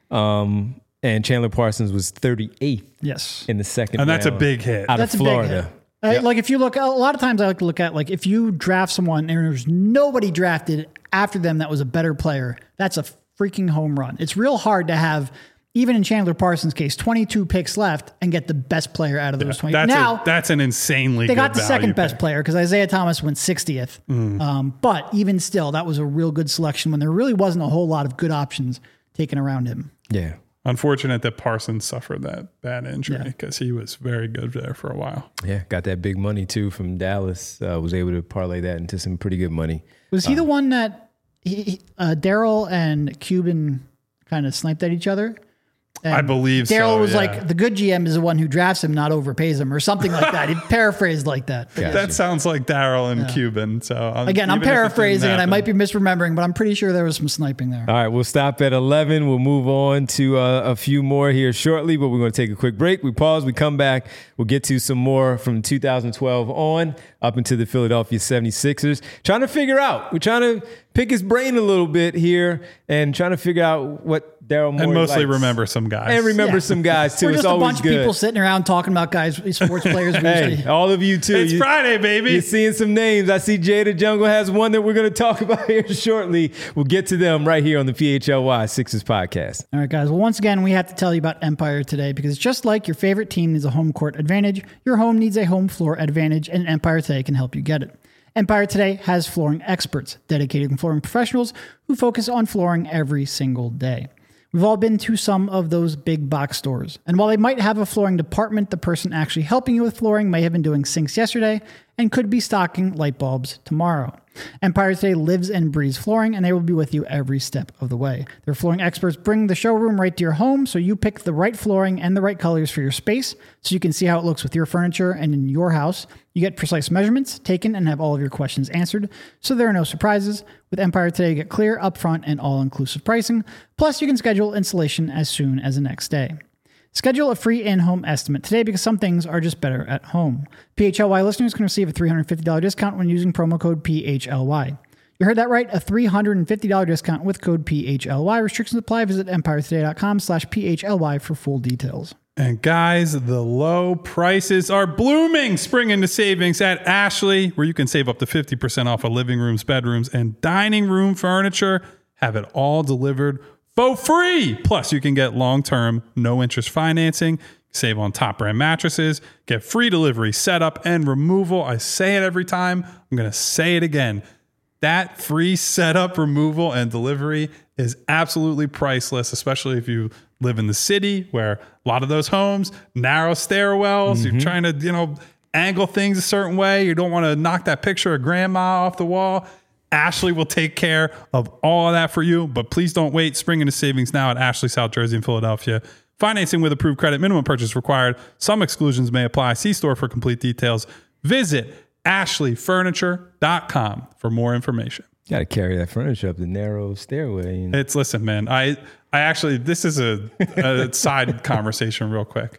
Um, and Chandler Parsons was thirty-eighth Yes. in the second And that's a round big hit. out That's of a big Florida. hit. Uh, Yep. Like if you look, a lot of times I like to look at like if you draft someone and there's nobody drafted after them that was a better player, that's a freaking home run. It's real hard to have, even in Chandler Parsons' case, twenty-two picks left and get the best player out of those twenty. That's, Now a, that's an insanely they good got the value second best pick. player because Isaiah Thomas went sixtieth. Mm. Um, but even still, that was a real good selection when there really wasn't a whole lot of good options taken around him. Yeah. Unfortunate that Parsons suffered that bad injury Yeah. because he was very good there for a while. Yeah. Got that big money too from Dallas. Uh, was able to parlay that into some pretty good money. Was he the one that he, he- uh, Daryl and Cuban kind of sniped at each other? And I believe Daryl so, was yeah. like, the good G M is the one who drafts him, not overpays him, or something like that. He paraphrased like that. But Gotcha. That sounds like Daryl and Cuban. So um, again, I'm even if it didn't paraphrasing and I happen- might be misremembering, but I'm pretty sure there was some sniping there. All right, we'll stop at eleven. We'll move on to uh, a few more here shortly, but we're going to take a quick break. We pause, we come back. We'll get to some more from two thousand twelve on up into the Philadelphia seventy-sixers. Trying to figure out, we're trying to pick his brain a little bit here and trying to figure out what Daryl Morey And mostly likes. remember some guys. And remember Yeah. some guys too. We're It's just a always bunch good. of people sitting around talking about guys, sports players. we Hey, usually- all of you too. It's You- Friday, baby. You're seeing some names. I see Jada Jungle has one that we're going to talk about here shortly. We'll get to them right here on the P H L Y Sixers podcast. All right, guys. Well, once again, we have to tell you about Empire Today because just like your favorite team needs a home court advantage, your home needs a home floor advantage, and Empire Today can help you get it. Empire Today has flooring experts, dedicated flooring professionals who focus on flooring every single day. We've all been to some of those big box stores, and while they might have a flooring department, the person actually helping you with flooring may have been doing sinks yesterday and could be stocking light bulbs tomorrow. Empire Today lives and breathes flooring, and they will be with you every step of the way. Their flooring experts bring the showroom right to your home, so you pick the right flooring and the right colors for your space, so you can see how it looks with your furniture and in your house. You get precise measurements taken and have all of your questions answered, so there are no surprises. With Empire Today, you get clear, upfront, and all-inclusive pricing. Plus, you can schedule installation as soon as the next day. Schedule a free in-home estimate today because some things are just better at home. P H L Y listeners can receive a three hundred fifty dollars discount when using promo code P H L Y. You heard that right, a three hundred fifty dollars discount with code P H L Y. Restrictions apply. Visit empiretoday.com slash P H L Y for full details. And guys, the low prices are blooming. Spring into savings at Ashley, where you can save up to fifty percent off of living rooms, bedrooms, and dining room furniture. Have it all delivered for free. Plus, you can get long-term, no-interest financing, save on top-brand mattresses, get free delivery, setup, and removal. I say it every time. I'm going to say it again. That free setup, removal, and delivery is absolutely priceless, especially if you live in the city where a lot of those homes, narrow stairwells, you're trying to, you know, angle things a certain way. You don't want to knock that picture of grandma off the wall. Ashley will take care of all of that for you, but please don't wait. Spring into savings now at Ashley, South Jersey, and Philadelphia. Financing with approved credit, minimum purchase required. Some exclusions may apply. See store for complete details. Visit ashley furniture dot com for more information. Got to carry that furniture up the narrow stairway. And It's listen, man. I I actually this is a, a side conversation, real quick.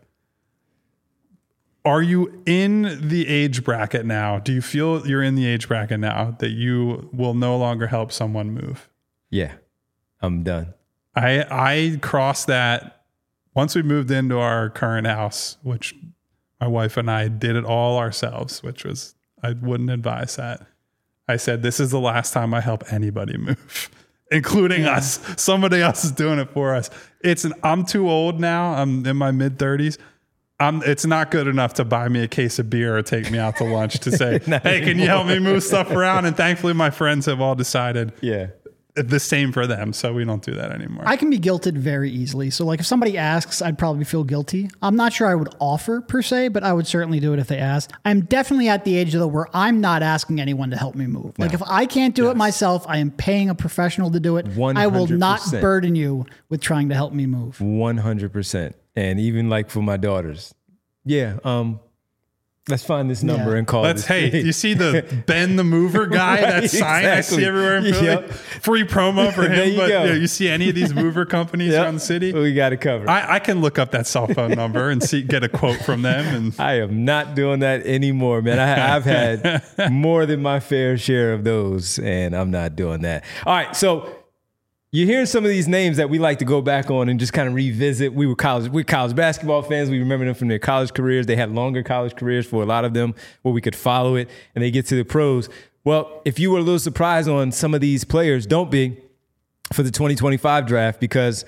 Are you in the age bracket now? Do you feel you're in the age bracket now that you will no longer help someone move? yeah, I'm done. I I crossed that once we moved into our current house, which my wife and I did it all ourselves, which was I wouldn't advise that. I said, this is the last time I help anybody move, including Yeah. us. Somebody else is doing it for us. It's an I'm too old now. I'm in my mid thirties. I'm, it's not good enough to buy me a case of beer or take me out to lunch to say, hey, can you help me move stuff around? And thankfully, my friends have all decided Yeah. the same for them. So we don't do that anymore. I can be guilted very easily. So like if somebody asks, I'd probably feel guilty. I'm not sure I would offer per se, but I would certainly do it if they asked. I'm definitely at the age though where I'm not asking anyone to help me move. Like if I can't do it myself, I am paying a professional to do it. I will not one hundred percent. burden you with trying to help me move. one hundred percent. And even like for my daughters, yeah, um, Let's find this number Yeah. and call Let's, this. hey, you see the Ben the Mover guy, Right, that sign I exactly. see everywhere in Philly? Yep. Free promo for There him. you But go. you, know, you see any of these mover companies Yep. around the city? We got it covered. I, I, I can look up that cell phone number and see get a quote from them. And am not doing that anymore, man. I, I've had more than my fair share of those, and I'm not doing that. All right, so you're hearing some of these names that we like to go back on and just kind of revisit. We were college, we're college basketball fans. We remember them from their college careers. They had longer college careers for a lot of them where we could follow it, and they get to the pros. Well, if you were a little surprised on some of these players, don't be for the twenty twenty-five draft, because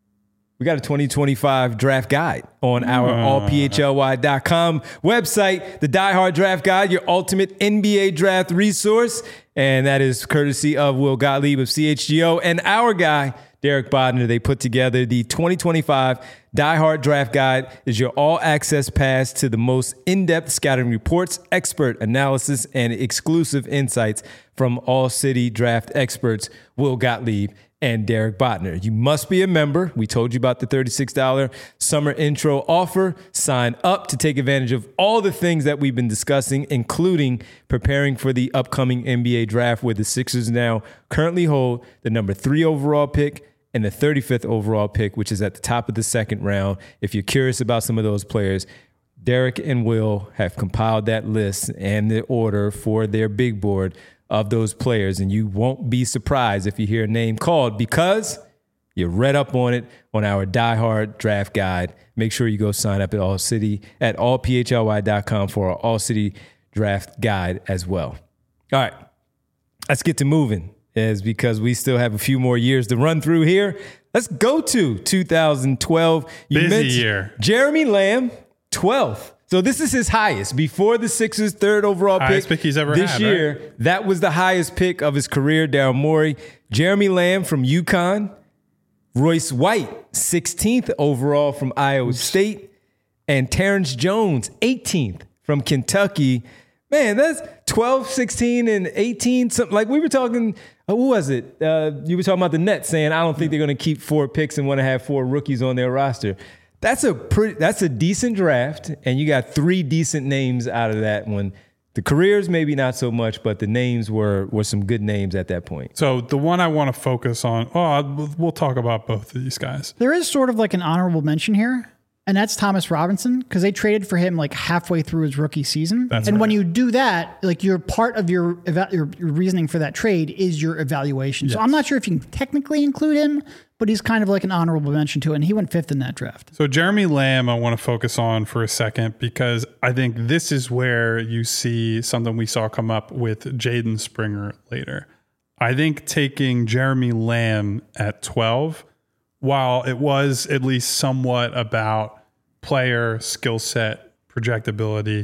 we got a twenty twenty-five draft guide on our all P H L Y dot com website, the Die Hard Draft Guide, your ultimate N B A draft resource. And that is courtesy of Will Gottlieb of C H G O and our guy, Derek Bodner. They put together the twenty twenty-five Die Hard Draft Guide. Is your all-access pass to the most in-depth scouting reports, expert analysis, and exclusive insights from all-city draft experts, Will Gottlieb and Derek Bodner. You must be a member. We told you about the thirty-six dollars summer intro offer. Sign up to take advantage of all the things that we've been discussing, including preparing for the upcoming N B A draft, where the Sixers now currently hold the number three overall pick and the thirty-fifth overall pick, which is at the top of the second round. If you're curious about some of those players, Derek and Will have compiled that list and the order for their big board of those players, and you won't be surprised if you hear a name called, because you read up on it on our Die Hard Draft Guide. Make sure you go sign up at All City at all P H L Y dot com for our All City Draft Guide as well. All right, let's get to moving, is because we still have a few more years to run through here. Let's go to two thousand twelve. You Busy mentioned year. Jeremy Lamb, twelfth. So this is his highest. Before the Sixers' third overall Highest pick, pick he's ever this had, year, right? that was the highest pick of his career, Daryl Morey. Jeremy Lamb from UConn. Royce White, sixteenth overall from Iowa State. And Terrence Jones, eighteenth from Kentucky. Man, that's twelve, sixteen, and eighteen. Something like we were talking, uh, who was it? Uh, you were talking about the Nets saying, I don't think they're going to keep four picks and want to have four rookies on their roster. That's a pretty, that's a decent draft, and you got three decent names out of that one. The careers, maybe not so much, but the names were were some good names at that point. so the one I want to focus on, oh, we'll- we'll talk about both of these guys. There is sort of like an honorable mention here, and that's Thomas Robinson, because they traded for him like halfway through his rookie season. That's and when right. you do that, like your part of your, eva- your your reasoning for that trade is your evaluation. So Yes. I'm not sure if you can technically include him, but he's kind of like an honorable mention to it, and he went fifth in that draft. So Jeremy Lamb, I want to focus on for a second, because I think this is where you see something we saw come up with Jaden Springer later. I think taking Jeremy Lamb at twelve, while it was at least somewhat about player skill set, projectability,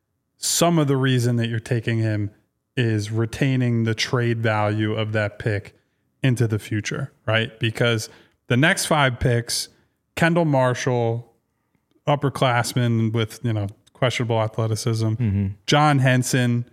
some of the reason that you're taking him is retaining the trade value of that pick into the future, right? Because the next five picks, Kendall Marshall, upperclassman with, you know, questionable athleticism, mm-hmm. John Henson,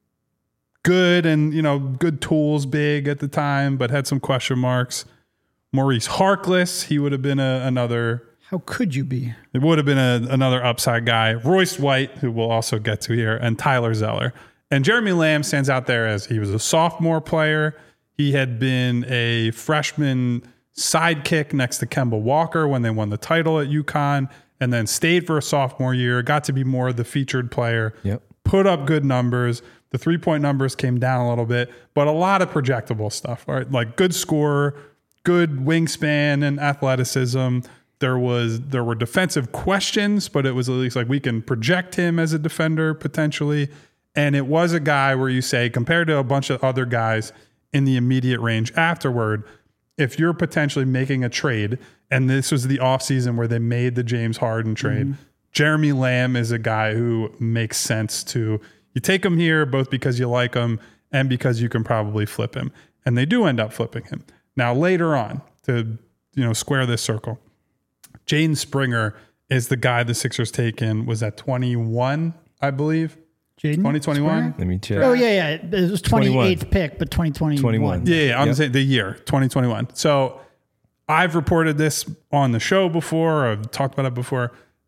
good and, you know, good tools, big at the time, but had some question marks. Maurice Harkless, he would have been a, another... How could you be? It would have been a, another upside guy. Royce White, who we'll also get to here, and Tyler Zeller. And Jeremy Lamb stands out there as he was a sophomore player. He had been a freshman sidekick next to Kemba Walker when they won the title at UConn, and then stayed for a sophomore year, got to be more of the featured player, Yep. put up good numbers. The three-point numbers came down a little bit, but a lot of projectable stuff, right? Like good scorer, good wingspan and athleticism. There was there were defensive questions, but it was at least like we can project him as a defender potentially. And it was a guy where you say, compared to a bunch of other guys in the immediate range afterward, if you're potentially making a trade, and this was the offseason where they made the James Harden trade, mm-hmm. Jeremy Lamb is a guy who makes sense to, you take him here both because you like him and because you can probably flip him. And they do end up flipping him. Now later on, to you know square this circle, Jaden Springer is the guy the Sixers taken, was at twenty-one, I believe. Jaden? twenty twenty-one? Let me check. Oh, yeah, yeah. It was twenty-eighth twenty-one. pick, but twenty twenty-one. twenty-one. Yeah, yeah, I'm Yep. saying the year, twenty twenty-one. So I've reported this on the show before. I've talked about it before.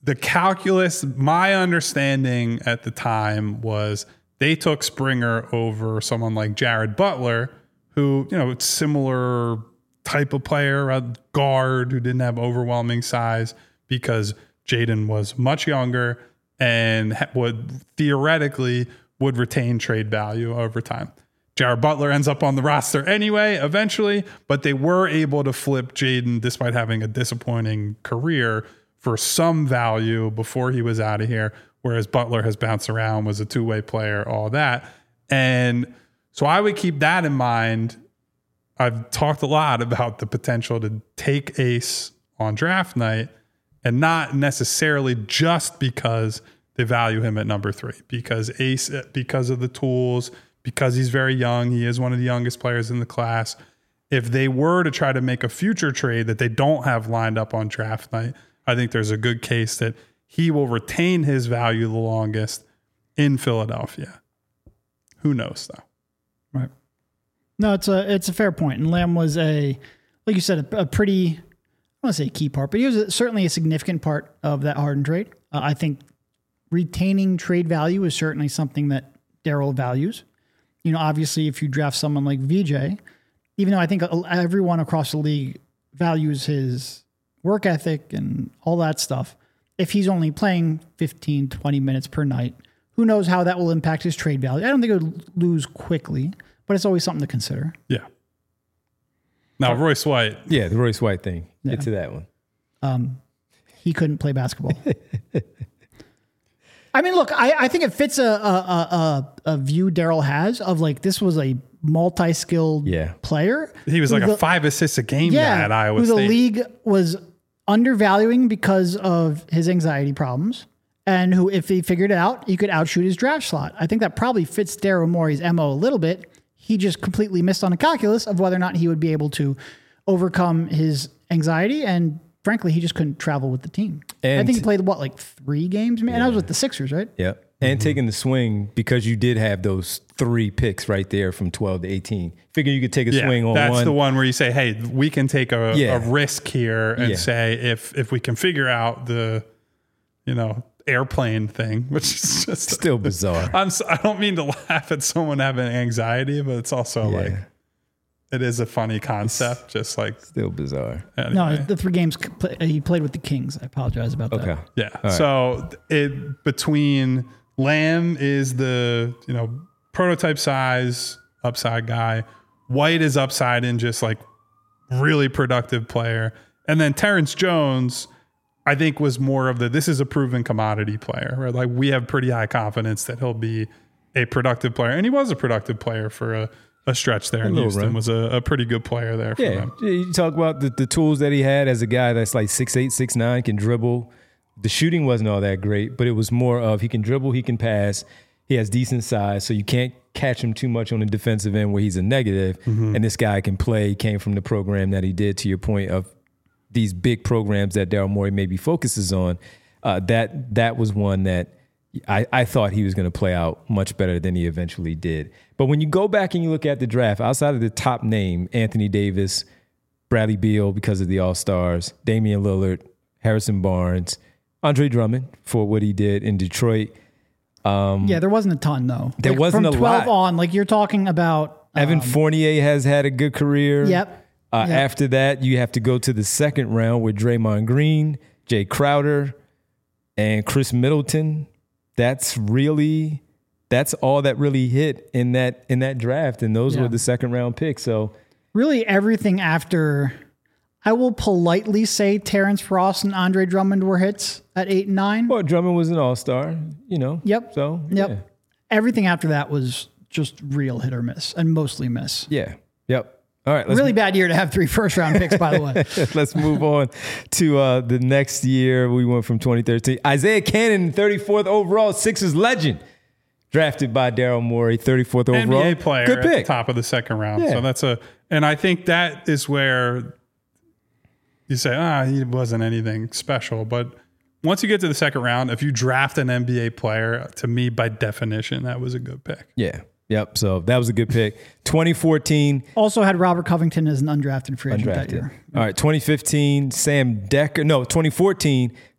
the calculus, my understanding at the time was they took Springer over someone like Jared Butler, who, you know, it's similar type of player, a guard who didn't have overwhelming size, because Jaden was much younger and would theoretically would retain trade value over time. Jared Butler ends up on the roster anyway, eventually, but they were able to flip Jaden despite having a disappointing career for some value before he was out of here, whereas Butler has bounced around, was a two-way player, all that. And so I would keep that in mind. I've talked a lot about the potential to take Ace on draft night, and not necessarily just because they value him at number three, because Ace, because of the tools, because he's very young, he is one of the youngest players in the class. If they were to try to make a future trade that they don't have lined up on draft night, I think there's a good case that he will retain his value the longest in Philadelphia. Who knows, though? Right. No, it's a it's a fair point. And Lamb was a, like you said, a, a pretty, I don't want to say key part, but he was a, certainly a significant part of that Harden trade. Uh, I think retaining trade value is certainly something that Daryl values. You know, obviously, if you draft someone like V J, even though I think everyone across the league values his work ethic and all that stuff, if he's only playing fifteen, twenty minutes per night, who knows how that will impact his trade value. I don't think it would lose quickly, but it's always something to consider. Yeah. Now, Royce White. Yeah, the Royce White thing. Yeah. Get to that one. Um, he couldn't play basketball. I mean, look, I, I think it fits a a, a, a view Daryl has of like, this was a multi-skilled yeah. player. He was like the, a five assists a game yeah, guy at Iowa who State. The league was undervaluing because of his anxiety problems, and who, if he figured it out, he could outshoot his draft slot. I think that probably fits Daryl Morey's M O a little bit. He just completely missed on a calculus of whether or not he would be able to overcome his anxiety, and frankly, he just couldn't travel with the team. And I think he played, what, like three games? Man, yeah. And I was with the Sixers, right? Yeah. And mm-hmm. taking the swing, because you did have those three picks right there from twelve to eighteen. Figure you could take a yeah, swing on that's one. That's the one where you say, hey, we can take a, yeah. a risk here and yeah. say, if if we can figure out the, you know, airplane thing, which is just still bizarre. I'm so, I don't mean to laugh at someone having anxiety, but it's also yeah. like, it is a funny concept, it's just like still bizarre. Anyway. No, the three games he played with the Kings. I apologize about that. Okay. Yeah. Right. So it between Lamb is the, you know, prototype size upside guy. White is upside in just like really productive player. And then Terrence Jones, I think, was more of the, this is a proven commodity player, right? Like, we have pretty high confidence that he'll be a productive player. And he was a productive player for a, a stretch there in Houston, run. was a, a pretty good player there for yeah. them. You talk about the, the tools that he had as a guy that's like six eight, six nine, can dribble. The shooting wasn't all that great, but it was more of he can dribble, he can pass, he has decent size, so you can't catch him too much on the defensive end where he's a negative. Mm-hmm. And this guy can play. He came from the program that he did, to your point of these big programs that Daryl Morey maybe focuses on. Uh, that that was one that I, I thought he was going to play out much better than he eventually did. But when you go back and you look at the draft, outside of the top name, Anthony Davis, Bradley Beal because of the All-Stars, Damian Lillard, Harrison Barnes, Andre Drummond for what he did in Detroit. Um, yeah, there wasn't a ton, though. There like, wasn't a lot. From twelve on, like you're talking about. Um, Evan Fournier has had a good career. Yep. Uh, yep. After that, you have to go to the second round with Draymond Green, Jay Crowder, and Chris Middleton. That's really, that's all that really hit in that in that draft, and those yeah. were the second round picks. So really, everything after, I will politely say, Terrence Ross and Andre Drummond were hits at eight and nine. Well, Drummond was an all-star, you know. Yep. So yep. Yeah. Everything after that was just real hit or miss, and mostly miss. Yeah. Yep. All right. Let's really m- bad year to have three first round picks, by the way. Let's move on to uh, the next year. We went from twenty thirteen. Isaiah Cannon, thirty-fourth overall, Sixers legend, drafted by Daryl Morey, thirty-fourth overall. N B A player Good pick. At the top of the second round. Yeah. So that's a, and I think that is where you say, ah, he wasn't anything special. But once you get to the second round, if you draft an N B A player, to me, by definition, that was a good pick. Yeah. Yep. So that was a good pick. twenty fourteen. Also had Robert Covington as an undrafted free agent undrafted. that year. All right. twenty fifteen, Sam Decker. No, twenty fourteen,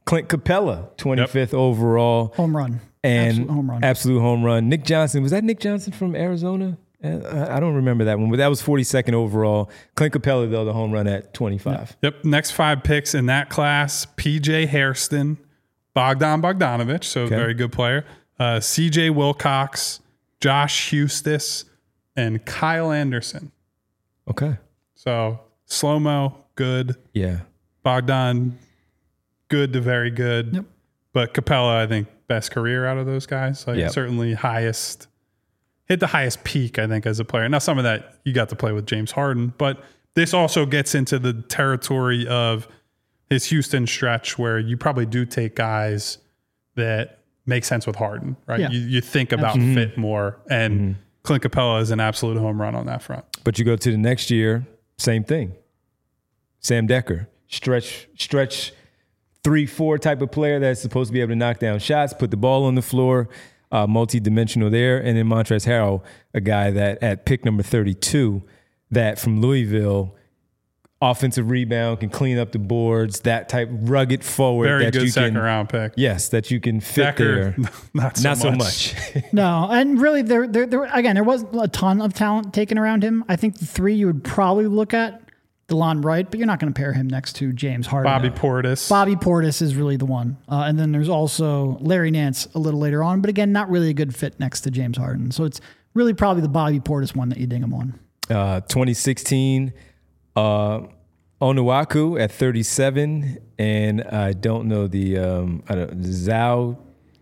Clint Capella, twenty-fifth yep. overall. Home run. And absolute home run. Absolute home run. Nick Johnson, was that Nick Johnson from Arizona? I don't remember that one, but that was forty-second overall. Clint Capella, though, the home run at twenty-five. Yep. yep. Next five picks in that class, P J Hairston, Bogdan Bogdanovic, so okay. very good player, uh, C J Wilcox, Josh Hustis, and Kyle Anderson. Okay. So slow-mo, good. Yeah. Bogdan, good to very good. Yep. But Capella, I think, best career out of those guys. Like yep. certainly highest, hit the highest peak, I think, as a player. Now, some of that you got to play with James Harden, but this also gets into the territory of his Houston stretch where you probably do take guys that make sense with Harden, right? Yeah. You, you think about Absolutely. fit more, and mm-hmm. Clint Capella is an absolute home run on that front. But you go to the next year, same thing. Sam Decker, stretch, stretch, three, four type of player that's supposed to be able to knock down shots, put the ball on the floor, uh, multi-dimensional there. And then Montrezl Harrell, a guy that at pick number thirty-two, that from Louisville, offensive rebound, can clean up the boards, that type rugged forward. Very that good you second can, round pick. Yes, that you can fit Decker, there. Not so not so much. much. No, and really, there, there, there, again, there wasn't a ton of talent taken around him. I think the three you would probably look at, DeLon Wright, but you're not going to pair him next to James Harden. Bobby Portis. Bobby Portis is really the one. Uh, and then there's also Larry Nance a little later on, but again, not really a good fit next to James Harden. So it's really probably the Bobby Portis one that you ding him on. Uh, twenty sixteen, uh, Onuaku at thirty-seven, and I don't know the um, I don't Zhao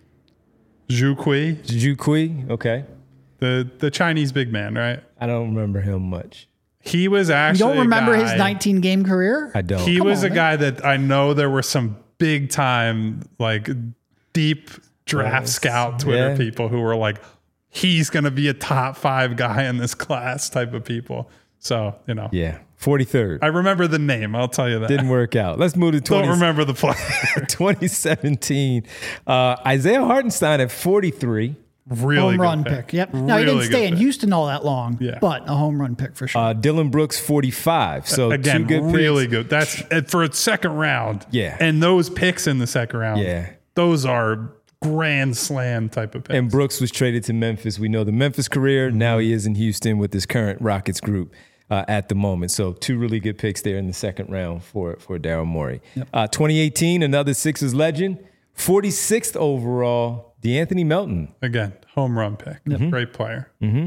Zhu Kui. Zhu Kui, okay. The the Chinese big man, right? I don't remember him much. He was actually. You don't remember a guy, his nineteen game career? I don't. He Come was on, a man. guy that I know there were some big time, like deep draft Yes. scout Twitter Yeah. people who were like, he's going to be a top five guy in this class type of people. So, you know. Yeah, forty-third. I remember the name. I'll tell you that. Didn't work out. Let's move to Don't twenty, remember the player. twenty seventeen. Uh, Isaiah Hartenstein at forty-three. Really home good run pick. pick. Yep. Now, he Really didn't stay good in pick. Houston all that long, Yeah. but a home run pick for sure. Uh, Dylan Brooks, forty-five. So Again, two good really picks. good. That's and for a second round. Yeah. And those picks in the second round. Yeah. Those are grand slam type of picks. And Brooks was traded to Memphis. We know the Memphis career. Now he is in Houston with his current Rockets group uh, at the moment. So two really good picks there in the second round for, for Daryl Morey. Yep. Uh, twenty eighteen, another Sixers legend. forty-sixth overall, DeAnthony Melton. Again, home run pick. Great player.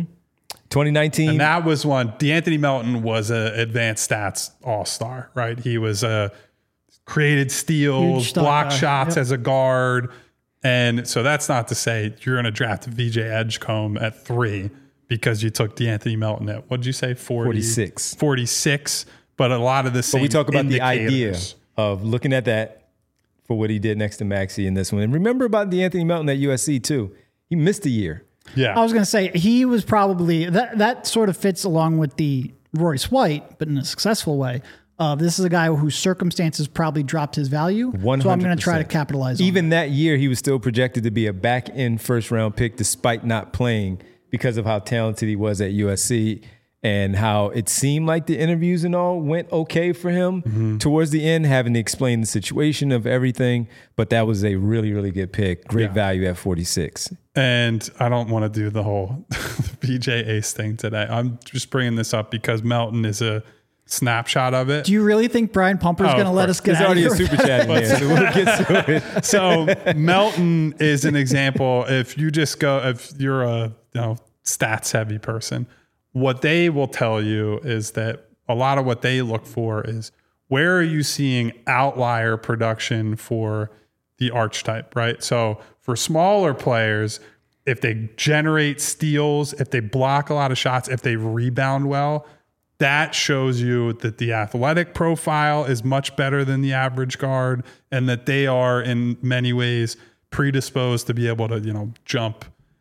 twenty nineteen. And that was one. DeAnthony Melton was a advanced stats all-star, right? He was a created steals, Huge stock block guy. shots Yep. as a guard. And so that's not to say you're going to draft V J Edgecombe at three because you took DeAnthony Melton at, what'd you say? forty, forty-six. forty-six. But a lot of the same But we talk about the idea indicators. of looking at that for what he did next to Maxey in this one. And remember about DeAnthony Melton at U S C too. He missed a year. Yeah. I was going to say he was probably that. That sort of fits along with the Royce White, but in a successful way. Uh, this is a guy whose circumstances probably dropped his value. one hundred percent. So I'm going to try to capitalize on Even that year, he was still projected to be a back-end first-round pick despite not playing because of how talented he was at U S C and how it seemed like the interviews and all went okay for him Mm-hmm. towards the end, having to explain the situation of everything. But that was a really, really good pick. Great Yeah. value at forty-six. And I don't want to do the whole B J Ace thing today. I'm just bringing this up because Melton is a snapshot of it. Do you really think Brian Pumper's Oh, going to of let course. us get There's out already of a here? super chat in there, so we'll get to it. So Melton is an example. If you just go, if you're a you know stats heavy person, what they will tell you is that a lot of what they look for is where are you seeing outlier production for the archetype, right? So for smaller players, if they generate steals, if they block a lot of shots, if they rebound well, that shows you that the athletic profile is much better than the average guard and that they are in many ways predisposed to be able to, you know, jump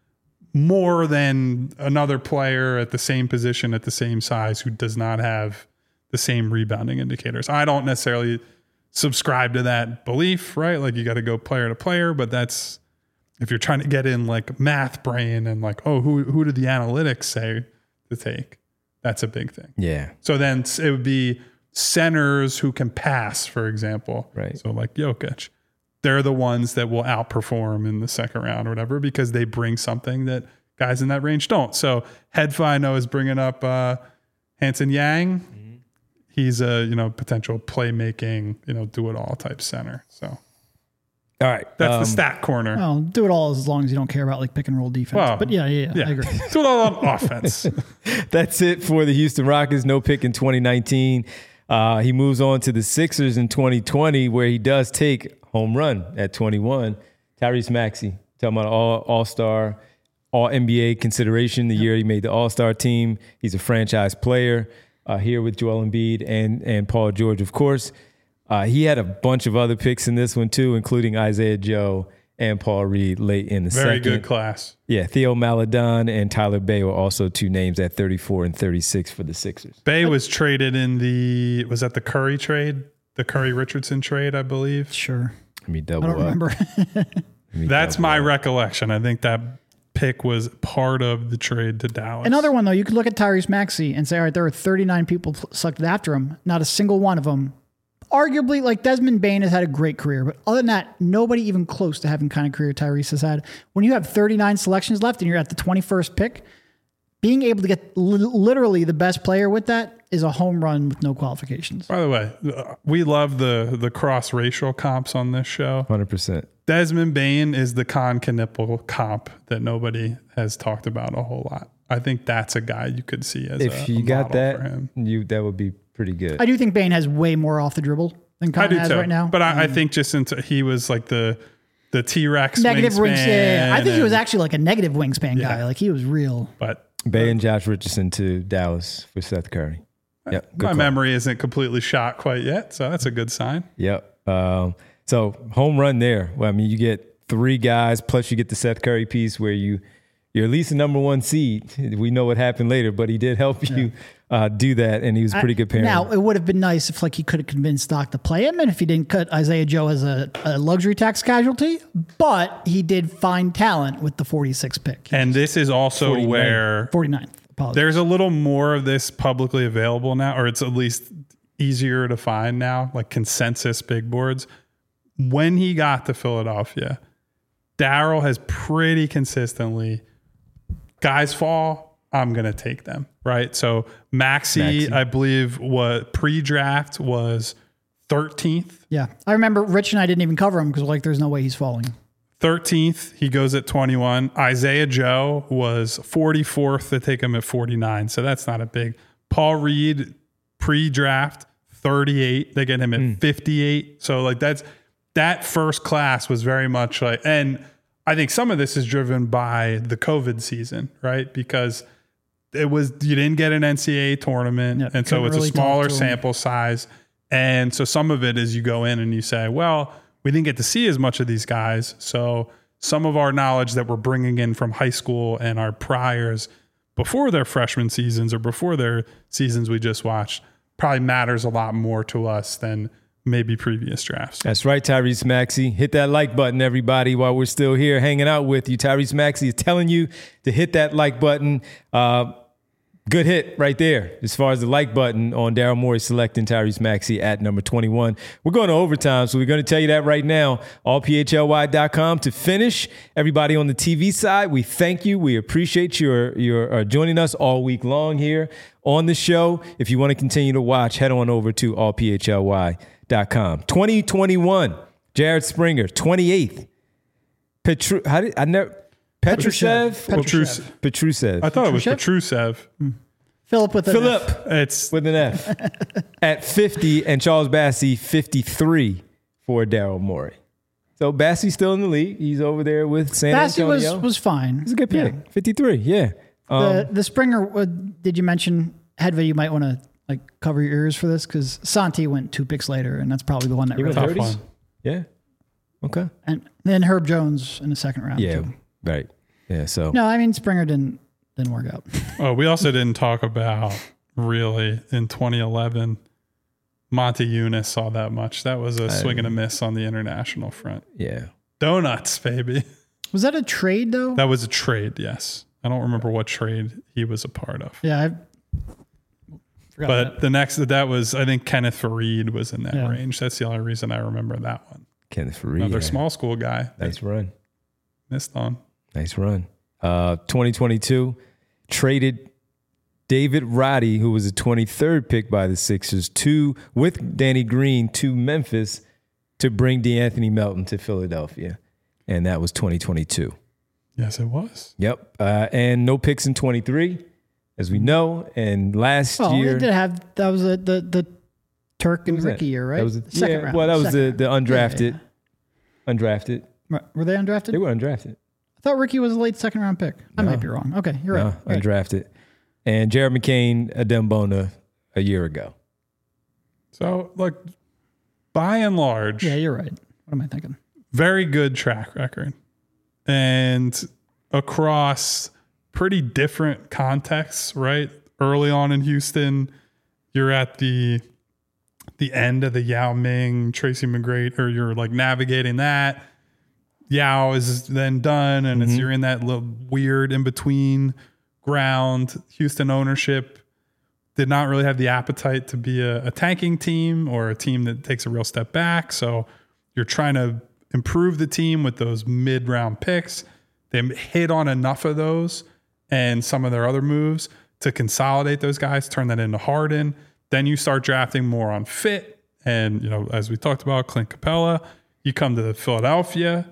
more than another player at the same position, at the same size, who does not have the same rebounding indicators. I don't necessarily subscribe to that belief, right? Like you got to go player to player, but that's, if you're trying to get in like math brain and like, oh, who, who did the analytics say to take? That's a big thing. Yeah. So then it would be centers who can pass, for example. Right. So like Jokic. they're the ones that will outperform in the second round or whatever because they bring something that guys in that range don't. So Hedfa, I know, is bringing up uh, Hanson Yang. Mm-hmm. He's a you know potential playmaking, you know, do it all type center. So all right, that's um, the stat corner. Well, do it all as long as you don't care about like pick and roll defense. Well, but yeah, yeah, yeah, yeah. I agree. Do it all on offense. That's it for the Houston Rockets. No pick in twenty nineteen. Uh, he moves on to the Sixers in twenty twenty, where he does take home run at twenty-one. Tyrese Maxey, talking about all All-Star, All N B A consideration the yep. year he made the All-Star team. He's a franchise player uh, here with Joel Embiid and and Paul George, of course. Uh, he had a bunch of other picks in this one too, including Isaiah Joe and Paul Reed late in the Very second. good class. Yeah, Theo Maledon and Tyler Bay were also two names at thirty-four and thirty-six for the Sixers. Bay was traded in the, was that the Curry trade? The Curry-Richardson trade, I believe. Sure. Let me double I don't up. remember. That's my up. recollection. I think that pick was part of the trade to Dallas. Another one, though, you could look at Tyrese Maxey and say, all right, there are thirty-nine people selected after him. Not a single one of them. Arguably, like Desmond Bane has had a great career, but other than that, nobody even close to having the kind of career Tyrese has had. When you have thirty-nine selections left and you're at the twenty-first pick, being able to get li- literally the best player with that is a home run with no qualifications. By the way, we love the the cross-racial comps on this show. one hundred percent. Desmond Bane is the Con Knipple comp that nobody has talked about a whole lot. I think that's a guy you could see as if a, you a got that, for him. you that would be pretty good. I do think Bane has way more off the dribble than Con has too, right now. But I, um, I think just into, he was like the the T-Rex negative wingspan. wings. Yeah, I think he and, was actually like a negative wingspan yeah. guy. Like he was real. But Bay and Josh Richardson to Dallas for Seth Curry. Yep. My call. memory isn't completely shot quite yet, so that's a good sign. Yep. Um, so home run there. Well, I mean, you get three guys, plus you get the Seth Curry piece where you, you're at least a number one seed. We know what happened later, but he did help you yeah. uh, do that, and he was a pretty good parent. Now, it would have been nice if like he could have convinced Doc to play him, and if he didn't cut Isaiah Joe as a, a luxury tax casualty, but he did find talent with the forty-sixth pick. And this is also forty-nine. where... forty-ninth. Apologies. There's a little more of this publicly available now, or it's at least easier to find now, like consensus big boards. When he got to Philadelphia, Daryl has pretty consistently, guys fall, I'm going to take them, right? So Maxey, Maxey. I believe, what pre-draft was thirteenth. Yeah. I remember Rich and I didn't even cover him because like there's no way he's falling. thirteenth, he goes at twenty-one. Isaiah Joe was forty-fourth to take him at forty-nine. So that's not a big. Paul Reed, pre-draft, thirty-eight. They get him at mm. fifty-eight. So like that's that first class was very much like, and I think some of this is driven by the COVID season, right? Because it was, you didn't get an N C double A tournament. Yeah, and so it's really a smaller sample size. And so some of it is you go in and you say, well, we didn't get to see as much of these guys. So some of our knowledge that we're bringing in from high school and our priors before their freshman seasons or before their seasons we just watched probably matters a lot more to us than maybe previous drafts. That's right, Tyrese Maxey. Hit that like button, everybody, while we're still here hanging out with you. Tyrese Maxey is telling you to hit that like button. Uh, Good hit right there as far as the like button on Daryl Morey selecting Tyrese Maxey at number twenty-one. We're going to overtime, so we're going to tell you that right now. all p h l y dot com to finish. Everybody on the T V side, we thank you. We appreciate your, your uh, joining us all week long here on the show. If you want to continue to watch, head on over to all p h l y dot com. twenty twenty-one, Jared Springer, twenty-eighth. Petru, how did I never... Petrusev? Petrusev. Petrusev. I thought it was Petrusev. Hmm. Philip with an Philip. F. It's with an F. At fifty, and Charles Bassey, fifty-three for Daryl Morey. So Bassey's still in the league. He's over there with San Bassey Antonio. was was fine. It's a good pick. Yeah. fifty-three, yeah. Um, the the Springer, uh, did you mention, Hedva, you might want to like cover your ears for this because Santi went two picks later, and that's probably the one that he really went tough thirties? one. Yeah. Okay. And then Herb Jones in the second round. Yeah, too. right. Yeah, so. No, I mean, Springer didn't didn't work out. Oh, we also didn't talk about really in twenty eleven. Monty Eunice saw that much. That was a I, swing and a miss on the international front. Yeah. Donuts, baby. Was that a trade, though? That was a trade, yes. I don't remember what trade he was a part of. Yeah, I forgot But that. the next, that was, I think Kenneth Fareed was in that Yeah. range. That's the only reason I remember that one. Kenneth Faried. Another yeah. small school guy. Nice run. Missed on. Nice run. Uh, twenty twenty-two, traded David Roddy, who was the twenty-third pick by the Sixers, to with Danny Green to Memphis to bring DeAnthony Melton to Philadelphia. And that was twenty twenty-two. Yes, it was. Yep. Uh, and no picks in twenty-three, as we know. And last Well, year... they did have, that was a, the, the Turk and was Ricky that? year, right? That was a, Second yeah, round. well, that was the, Second the round. undrafted. Yeah, yeah. Undrafted. Right. Were they undrafted? They were undrafted. I thought Ricky was a late second round pick. I No. might be wrong. Okay, you're No, right. right. undrafted. And Jared McCain, Adembona, a year ago. So, like, by and large, Yeah, you're right. What am I thinking? very good track record. And across pretty different contexts, right? Early on in Houston, you're at the the end of the Yao Ming, Tracy McGrady, or you're like navigating that. Yao is then done, and it's you're in that little weird in between ground. Houston ownership did not really have the appetite to be a, a tanking team or a team that takes a real step back. So you're trying to improve the team with those mid round picks. They hit on enough of those and some of their other moves to consolidate those guys, turn that into Harden. Then you start drafting more on fit. And, you know, as we talked about, Clint Capella, you come to Philadelphia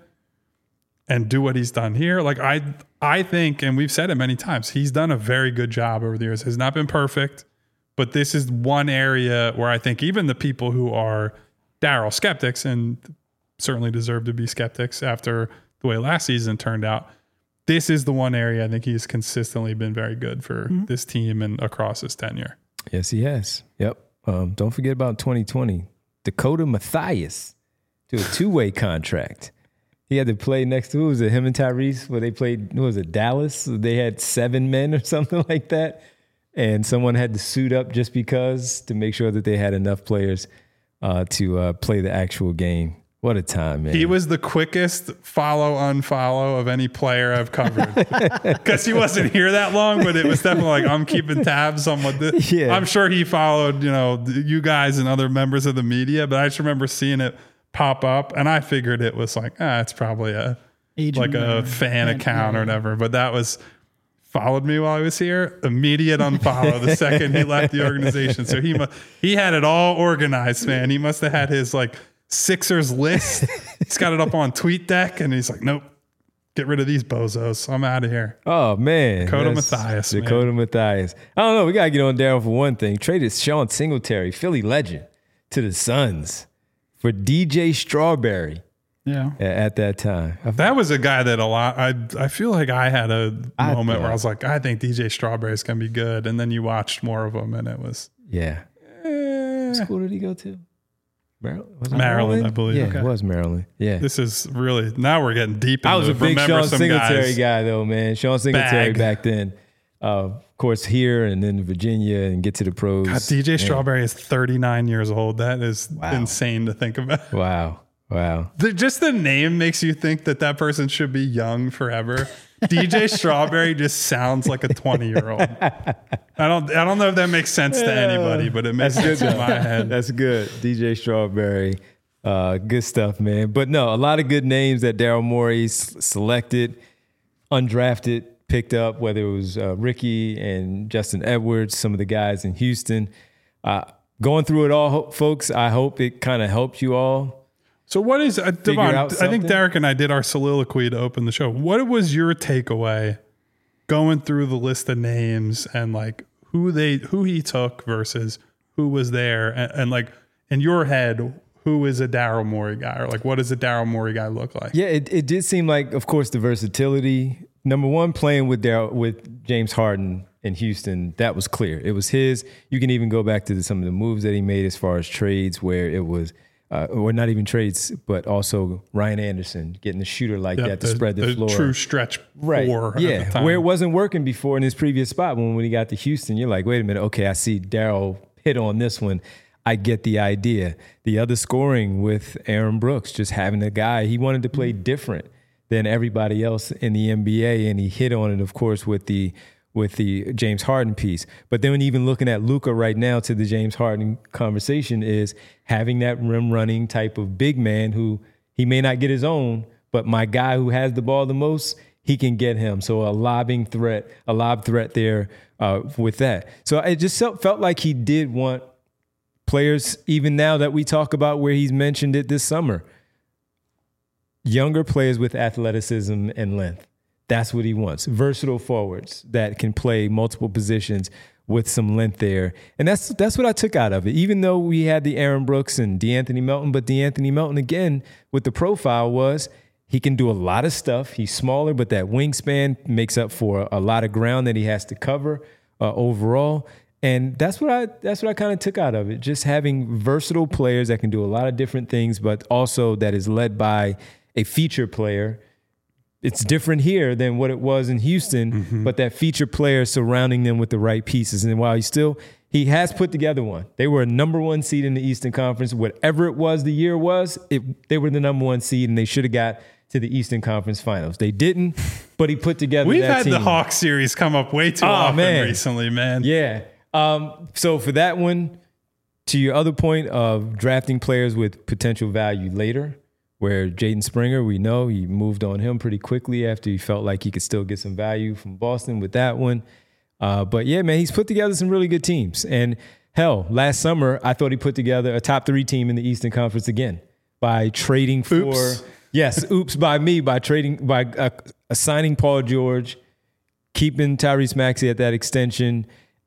and do what he's done here. Like I, I think, and we've said it many times, he's done a very good job over the years. Has not been perfect, but this is one area where I think even the people who are Daryl skeptics, and certainly deserve to be skeptics after the way last season turned out, this is the one area I think he's consistently been very good for mm-hmm. this team and across his tenure. Yes, he has. Yep. Um, don't forget about twenty twenty. Dakota Mathias to a two-way contract. He had to play next to, who was it, him and Tyrese, where they played, who was it, Dallas? They had seven men or something like that. And someone had to suit up just because to make sure that they had enough players uh, to uh, play the actual game. What a time, man. He was the quickest follow unfollow of any player I've covered. Because he wasn't here that long, but it was definitely like, I'm keeping tabs on what this. Yeah. I'm sure he followed, you know, you guys and other members of the media, but I just remember seeing it pop up and I figured it was like, ah, it's probably a Agent like a or fan fan, account yeah. or whatever. But that was followed me while I was here. Immediate unfollow the second he left the organization. So he mu- he had it all organized, man. He must have had his like Sixers list. He's got it up on TweetDeck and he's like, nope, get rid of these bozos. I'm out of here. Oh, man. Dakota That's Mathias, Dakota man. Mathias. I don't know. We got to get on Daryl for one thing. Traded Sean Singletary, Philly legend, to the Suns for D J Strawberry Yeah. a- at that time. I- That was a guy that a lot, I I feel like I had a I moment thought- where I was like, I think D J Strawberry is going to be good. And then you watched more of him and it was Yeah. eh. What school did he go to? Maryland? Was it Maryland, I believe. Yeah, Okay. it was Maryland. Yeah. This is really, now we're getting deep into I was a big remember Sean some Singletary guys. guy, though, man. Sean Singletary Bag. back then. Uh, of course, here and then Virginia and get to the pros. God, D J Man. Strawberry is thirty-nine years old. That is Wow. insane to think about. Wow. Wow. The, just the name makes you think that that person should be young forever. D J Strawberry just sounds like a twenty year old. I don't, I don't know if that makes sense to anybody, but it makes sense in my head. That's good. D J Strawberry. Uh, good stuff, man. But no, a lot of good names that Daryl Morey s- selected, undrafted, picked up, whether it was uh, Ricky and Justin Edwards, some of the guys in Houston. Uh, going through it all, ho- folks, I hope it kind of helped you all. So what is, uh, Devon, out I think something? Derek and I did our soliloquy to open the show. What was your takeaway going through the list of names and like who they, who he took versus who was there? And, and like in your head, who is a Daryl Morey guy, or like what does a Daryl Morey guy look like? Yeah, it, it did seem like, of course, the versatility. Number one, playing with Daryl, with James Harden in Houston, that was clear. It was his. You can even go back to the, some of the moves that he made as far as trades, where it was, uh, or not even trades, but also Ryan Anderson getting a shooter like Yep, that to spread the, floor. True stretch Right. four. Yeah. At the time. Where it wasn't working before in his previous spot. When, when he got to Houston, you're like, wait a minute. Okay, I see Daryl hit on this one. I get the idea. The other scoring with Aaron Brooks, just having a guy, he wanted to play different than everybody else in the N B A, and he hit on it, of course, with the with the James Harden piece. But then even looking at Luka right now, to the James Harden conversation, is having that rim running type of big man who He may not get his own, but my guy who has the ball the most, he can get him. So a lobbing threat, a lob threat there uh, with that. So it just felt like he did want players, even now that we talk about where he's mentioned it this summer, younger players with athleticism and length. That's what he wants. Versatile forwards that can play multiple positions with some length there. And that's that's what I took out of it. Even though we had the Aaron Brooks and DeAnthony Melton, but DeAnthony Melton, again, with the profile was he can do a lot of stuff. He's smaller, but that wingspan makes up for a lot of ground that he has to cover uh, overall. And that's what I that's what I kind of took out of it. Just having versatile players that can do a lot of different things, but also that is led by a feature player. It's different here than what it was in Houston, mm-hmm. but that feature player surrounding them with the right pieces. And while he still, he has put together one. They were a number one seed in the Eastern Conference. Whatever it was the year was, it, they were the number one seed, and they should have got to the Eastern Conference Finals. They didn't, but he put together We've that had team. The Hawks series come up way too oh, often man. recently, man. Yeah. Um, so for that one, to your other point of drafting players with potential value later, where Jaden Springer, we know he moved on him pretty quickly after he felt like he could still get some value from Boston with that one. Uh, but yeah, man, he's put together some really good teams. And hell, last summer, I thought he put together a top three team in the Eastern Conference again by trading for, oops. yes, oops by me, by trading, by uh, assigning Paul George, keeping Tyrese Maxey at that extension,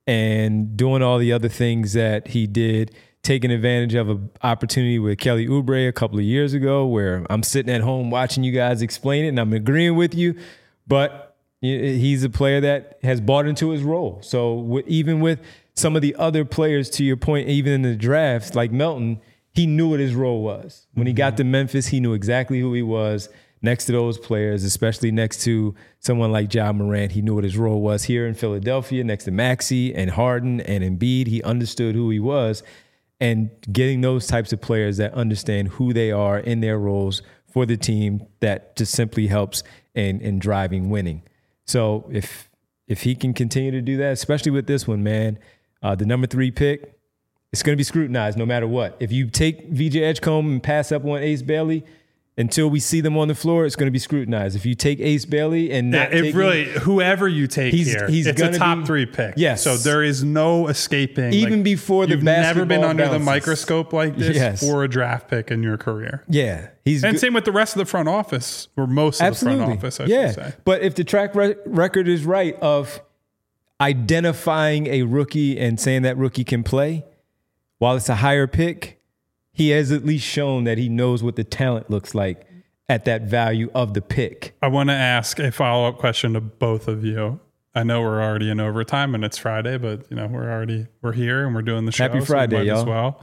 and doing all the other things that he did, taking advantage of an opportunity with Kelly Oubre a couple of years ago where I'm sitting at home watching you guys explain it and I'm agreeing with you, but he's a player that has bought into his role. So even with some of the other players, to your point, even in the drafts, like Melton, he knew what his role was. When he got to Memphis, he knew exactly who he was next to those players, especially next to someone like Ja Morant. He knew what his role was here in Philadelphia, next to Maxey and Harden and Embiid. He understood who he was. And getting those types of players that understand who they are in their roles for the team, that just simply helps in, in driving winning. So if if he can continue to do that, especially with this one, man, uh, the number three pick, it's going to be scrutinized no matter what. If you take V J Edgecombe and pass up on Ace Bailey, until we see them on the floor, it's going to be scrutinized. If you take Ace Bailey and not yeah, it take really him, whoever you take he's, here, he's it's a top be, three pick. Yes, so there is no escaping. Even like, before the you've basketball never been under bounces. the microscope like this yes. for a draft pick in your career. Yeah, he's and good. Same with the rest of the front office, or most of Absolutely. the front office. I yeah. should say. But if the track re- record is right of identifying a rookie and saying that rookie can play, while it's a higher pick, he has at least shown that he knows what the talent looks like at that value of the pick. I want to ask a follow-up question to both of you. I know we're already in overtime and it's Friday, but you know we're already we're here and we're doing the show. Happy Friday, so we might y'all. as well.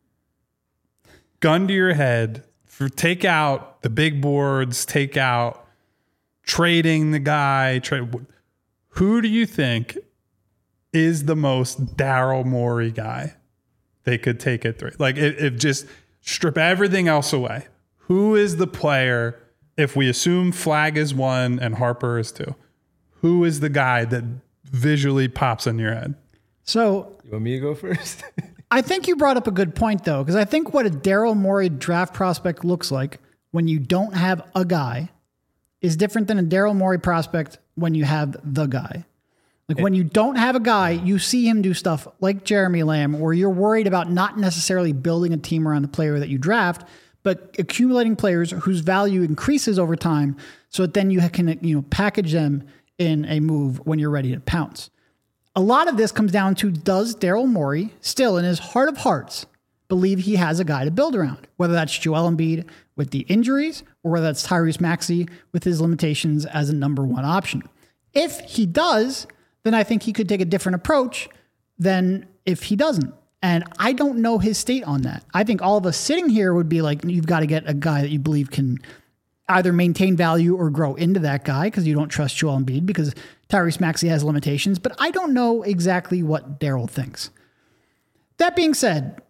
Gun to your head, for take out the big boards, take out trading the guy. Trade. Who do you think is the most Daryl Morey guy they could take it through? Like if, if just strip everything else away. Who is the player, if we assume Flag is one and Harper is two, who is the guy that visually pops in your head? So You want me to go first? I think you brought up a good point, though, because I think what a Daryl Morey draft prospect looks like when you don't have a guy is different than a Daryl Morey prospect when you have the guy. Like when you don't have a guy, you see him do stuff like Jeremy Lamb, where you're worried about not necessarily building a team around the player that you draft, but accumulating players whose value increases over time so that then you can, you know, package them in a move when you're ready to pounce. A lot of this comes down to, does Daryl Morey still in his heart of hearts believe he has a guy to build around, whether that's Joel Embiid with the injuries or whether that's Tyrese Maxey with his limitations as a number one option. If he does, then I think he could take a different approach than if he doesn't. And I don't know his state on that. I think all of us sitting here would be like, you've got to get a guy that you believe can either maintain value or grow into that guy because you don't trust Joel Embiid because Tyrese Maxey has limitations. But I don't know exactly what Daryl thinks. That being said,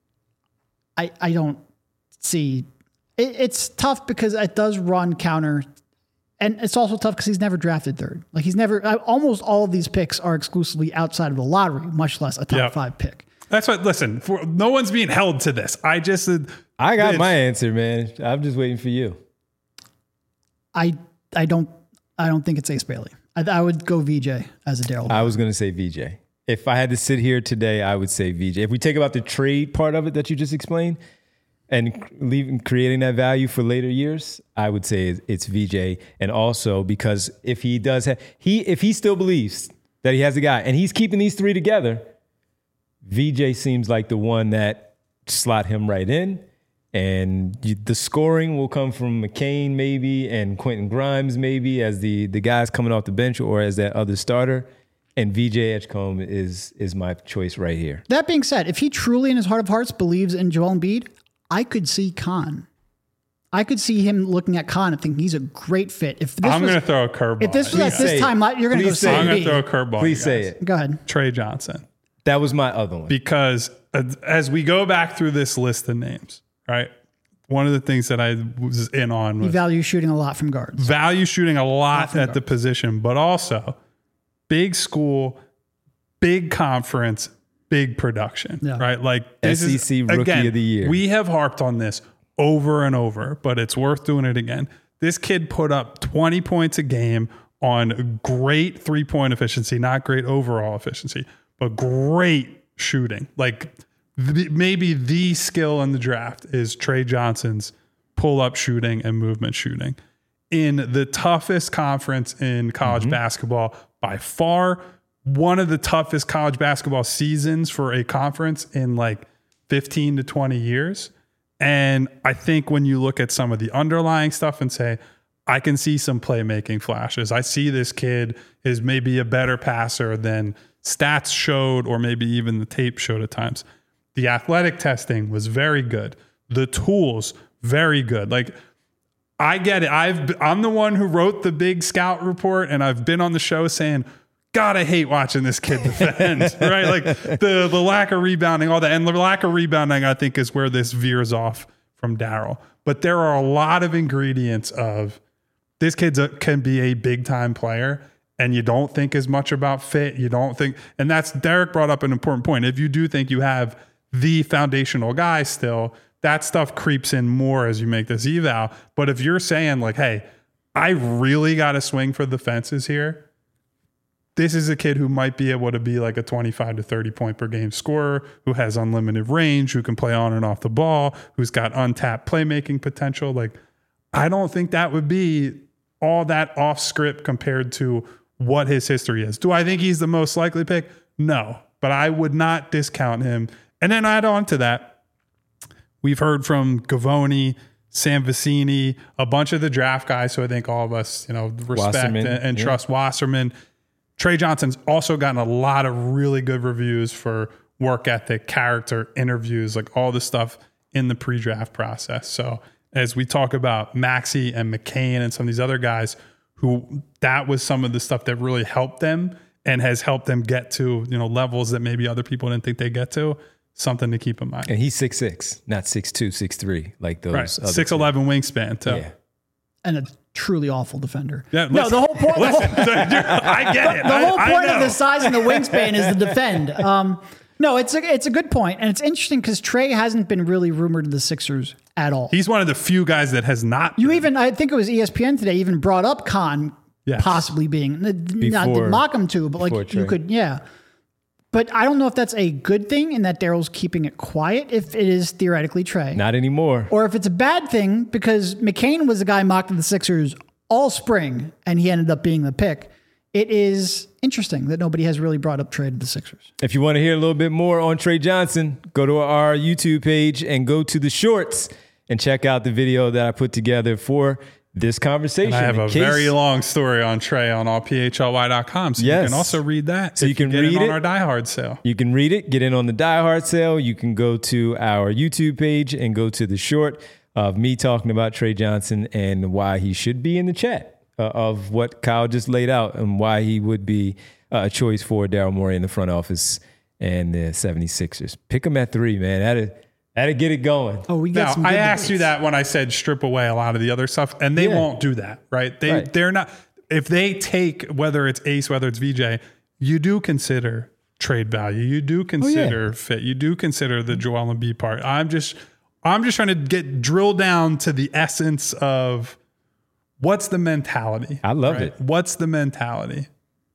I I don't see... It, it's tough because it does run counter. And it's also tough because he's never drafted third. Like he's never... Almost all of these picks are exclusively outside of the lottery, much less a top yep. five pick. That's what, listen, for, no one's being held to this. I just, uh, I got this. my answer, man. I'm just waiting for you. I I don't I don't think it's Ace Bailey. I, I would go V J as a Daryl. I was going to say V J. If I had to sit here today, I would say V J. If we take about the trade part of it that you just explained and leaving, creating that value for later years, I would say it's V J. And also because if he does have, he, if he still believes that he has a guy and he's keeping these three together, V J seems like the one that slot him right in. And you, the scoring will come from McCain maybe and Quentin Grimes maybe as the, the guys coming off the bench or as that other starter. And V J Edgecombe is is my choice right here. That being said, if he truly in his heart of hearts believes in Joel Embiid, I could see Khan. I could see him looking at Khan and thinking he's a great fit. If this I'm was, going to throw a curveball. If this was at this time, you're going to go Please see say it. I'm going Embiid. to throw a curveball. Please you say guys. it. Go ahead. Trey Johnson. That was my other one. Because as we go back through this list of names, right? One of the things that I was in on He was values shooting a lot from guards. value shooting a lot from at the guards. position, but also big school, big conference, big production, Yeah. right? Like this S E C is, Rookie again, of the Year. We have harped on this over and over, but it's worth doing it again. This kid put up twenty points a game on great three-point efficiency, not great overall efficiency, but great shooting. Like the, maybe the skill in the draft is Trey Johnson's pull-up shooting and movement shooting. In the toughest conference in college Mm-hmm. basketball, by far, one of the toughest college basketball seasons for a conference in like fifteen to twenty years. And I think when you look at some of the underlying stuff and say, I can see some playmaking flashes. I see this kid is maybe a better passer than stats showed, or maybe even the tape showed at times. The athletic testing was very good. The tools, very good. Like, I get it. I've I'm the one who wrote the big scout report, and I've been on the show saying, God, I hate watching this kid defend, right? Like the the lack of rebounding, all that. And the lack of rebounding, I think, is where this veers off from Daryl. But there are a lot of ingredients of this kid can be a big time player, and you don't think as much about fit. You don't think, and that's Derek brought up an important point. If you do think you have the foundational guy still, that stuff creeps in more as you make this eval. But if you're saying like, hey, I really got to swing for the fences here, this is a kid who might be able to be like a twenty-five to thirty point per game scorer, who has unlimited range, who can play on and off the ball, who's got untapped playmaking potential. Like, I don't think that would be all that off script compared to what his history is. Do I think he's the most likely pick? No, but I would not discount him. And then add on to that, we've heard from Gavoni, Sam Vecini, a bunch of the draft guys who I think all of us, you know, respect Wasserman, and, and yeah. trust. Wasserman. Trey Johnson's also gotten a lot of really good reviews for work ethic, character, interviews, like all the stuff in the pre-draft process. So as we talk about Maxey and McCain and some of these other guys who that was some of the stuff that really helped them and has helped them get to, you know, levels that maybe other people didn't think they get to, something to keep in mind. And he's six six, not six two, six three, like those. Right. other six two. eleven wingspan too. Yeah. And a truly awful defender. Yeah, no, listen, the whole point. listen, I get it. The whole I, point I of know. the size and the wingspan is to defend. Um, no, it's a it's a good point, and it's interesting because Trey hasn't been really rumored to the Sixers at all. He's one of the few guys that has not. You been. even, I think it was E S P N today, even brought up Khan Yes. possibly being not Before- to mock him to, but before like you Trey. could, yeah. But I don't know if that's a good thing, and that Daryl's keeping it quiet if it is theoretically Trey, Not anymore. or if it's a bad thing because McCain was the guy mocked to the Sixers all spring, and he ended up being the pick. It is interesting that nobody has really brought up Trey to the Sixers. If you want to hear a little bit more on Trey Johnson, go to our YouTube page and go to the shorts and check out the video that I put together for this conversation. I have In a case- very long story on Trey on all P H L Y dot com, so Yes. you can also read that. So if you can get read in on it. our Die Hard sale. You can read it, get in on the Die Hard sale. You can go to our YouTube page and go to the short of me talking about Trey Johnson and why he should be in the chat uh, of what Kyle just laid out and why he would be uh, a choice for Daryl Morey in the front office and the seventy-sixers. Pick him at three, man. That'd, that'd get it going. Oh, we got Now, some. I good asked you debates. that when I said strip away a lot of the other stuff, and they Yeah. won't do that, right? They Right. they're not. If they take whether it's Ace, whether it's V J, you do consider trade value. You do consider oh, yeah. fit. You do consider the Joel Embiid part. I'm just, I'm just trying to get drilled down to the essence of what's the mentality. I love right? it. What's the mentality?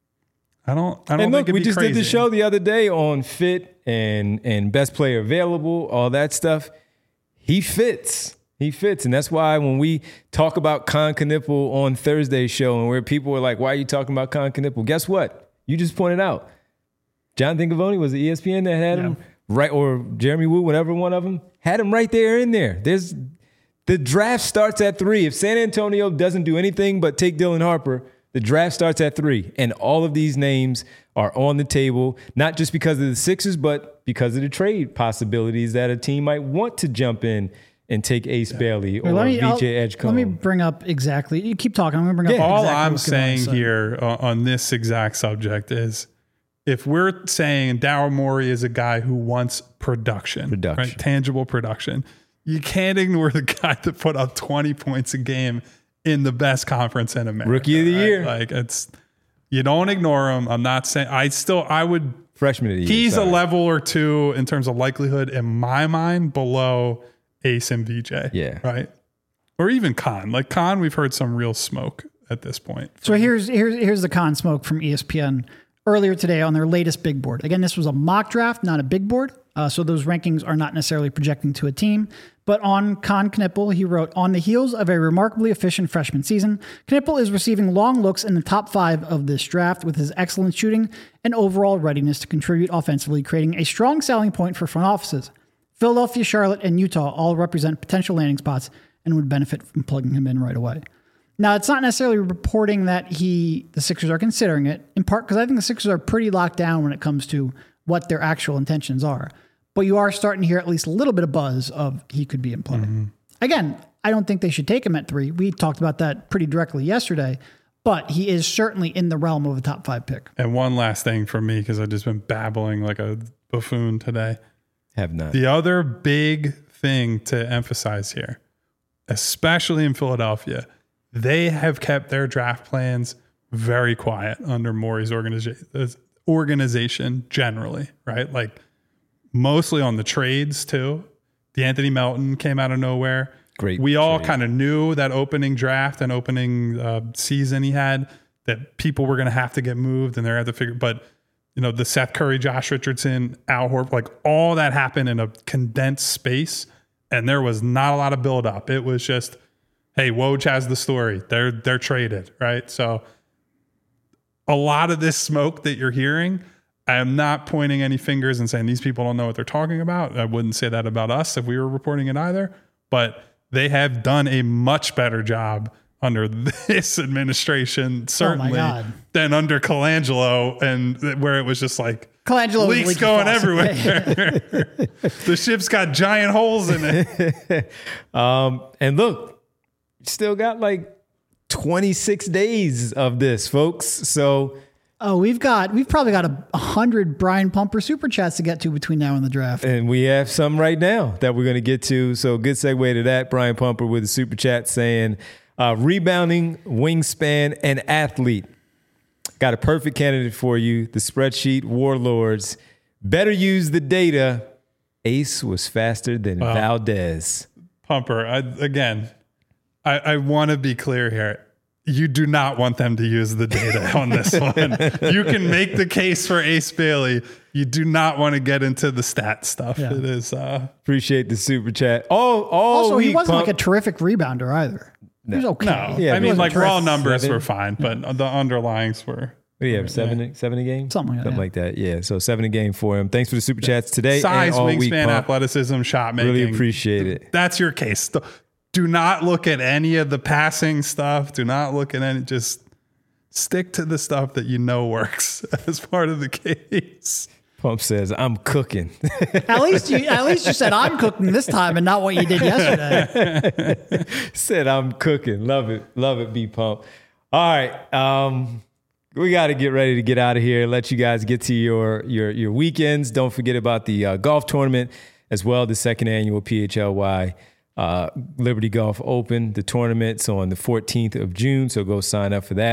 I don't. I don't and think look, we be just crazy. did the show the other day on fit and and best player available, all that stuff. He fits. He fits. And that's why when we talk about Con Knipple on Thursday's show and where people were like, why are you talking about Con Knipple? Guess what? You just pointed out. Jonathan Givony was it E S P N that had yeah. him right, or Jeremy Woo, whatever one of them, had him right there in there. There's the draft starts at three. If San Antonio doesn't do anything but take Dylan Harper, the draft starts at three. And all of these names are on the table, not just because of the Sixers, but because of the trade possibilities that a team might want to jump in and take Ace yeah. Bailey or me, V J Edgecombe. Let me bring up exactly. You keep talking. I'm going to bring yeah. up All exactly I'm what's saying on here uh, on this exact subject is if we're saying Daryl Morey is a guy who wants production, production. Right? Tangible production, you can't ignore the guy that put up twenty points a game in the best conference in America. Rookie of the right? year. Like it's, you don't ignore him. I'm not saying, I still, I would. Freshman of the year. He's sorry. a level or two in terms of likelihood in my mind below Ace and V J. Yeah. Right. Or even Con. Like Con, we've heard some real smoke at this point. So here's here's here's the Con smoke from E S P N earlier today on their latest big board. Again, this was a mock draft, not a big board. Uh, so those rankings are not necessarily projecting to a team. But on Con Knipple, he wrote, on the heels of a remarkably efficient freshman season, Knipple is receiving long looks in the top five of this draft with his excellent shooting and overall readiness to contribute offensively, creating a strong selling point for front offices. Philadelphia, Charlotte, and Utah all represent potential landing spots and would benefit from plugging him in right away. Now, it's not necessarily reporting that he, the Sixers are considering it, in part because I think the Sixers are pretty locked down when it comes to what their actual intentions are. But you are starting to hear at least a little bit of buzz of he could be in play. Mm-hmm. Again, I don't think they should take him at three. We talked about that pretty directly yesterday, but he is certainly in the realm of a top five pick. And one last thing for me, because I've just been babbling like a buffoon today. Have not. The other big thing to emphasize here, especially in Philadelphia, they have kept their draft plans very quiet under Morey's organiza- organization generally, right? Like mostly on the trades too. DeAnthony Melton came out of nowhere. Great. We all trade. kind of knew that opening draft and opening uh, season he had that people were going to have to get moved and they're going to have to figure, but you know, the Seth Curry, Josh Richardson, Al Horford, like all that happened in a condensed space. And there was not a lot of buildup. It was just, hey, Woj has the story. They're they're traded, right? So a lot of this smoke that you're hearing, I am not pointing any fingers and saying these people don't know what they're talking about. I wouldn't say that about us if we were reporting it either. But they have done a much better job under this administration, certainly, oh than under Colangelo, and where it was just like Colangelo leaks going everywhere. The ship's got giant holes in it. um, and look, still got like twenty-six days of this, folks. So, oh, we've got we've probably got a hundred Brian Pumper super chats to get to between now and the draft, and we have some right now that we're going to get to. So, good segue to that. Brian Pumper with a super chat saying, uh, "Rebounding, wingspan, and athlete. Got a perfect candidate for you. The spreadsheet warlords. Better use the data. Ace was faster than wow. Valdez." Pumper, I, again, I, I want to be clear here. You do not want them to use the data on this one. You can make the case for Ace Bailey. You do not want to get into the stat stuff. Yeah. It is. Uh, Appreciate the super chat. Oh, all also, week, he wasn't Pump. like a terrific rebounder either. No. He was okay. no, Yeah, I mean, like terrific. raw numbers Seven. were fine, but the underlyings were. What do you have, seven, seven a game? Something like that, Something yeah. like that, yeah. So seven a game for him. Thanks for the super chats today. Size, and all week, wingspan, Pump. athleticism, shot making. Really appreciate it. That's your case. Do not look at any of the passing stuff. Do not look at any, just stick to the stuff that you know works as part of the case. Pump says, "I'm cooking." At least you, at least you said I'm cooking this time and not what you did yesterday. Said I'm cooking. Love it. Love it, B Pump. All right. Um, we got to get ready to get out of here. Let you guys get to your your your weekends. Don't forget about the uh, golf tournament as well. The second annual P H L Y uh, Liberty Golf Open. The tournament's on the fourteenth of June, so go sign up for that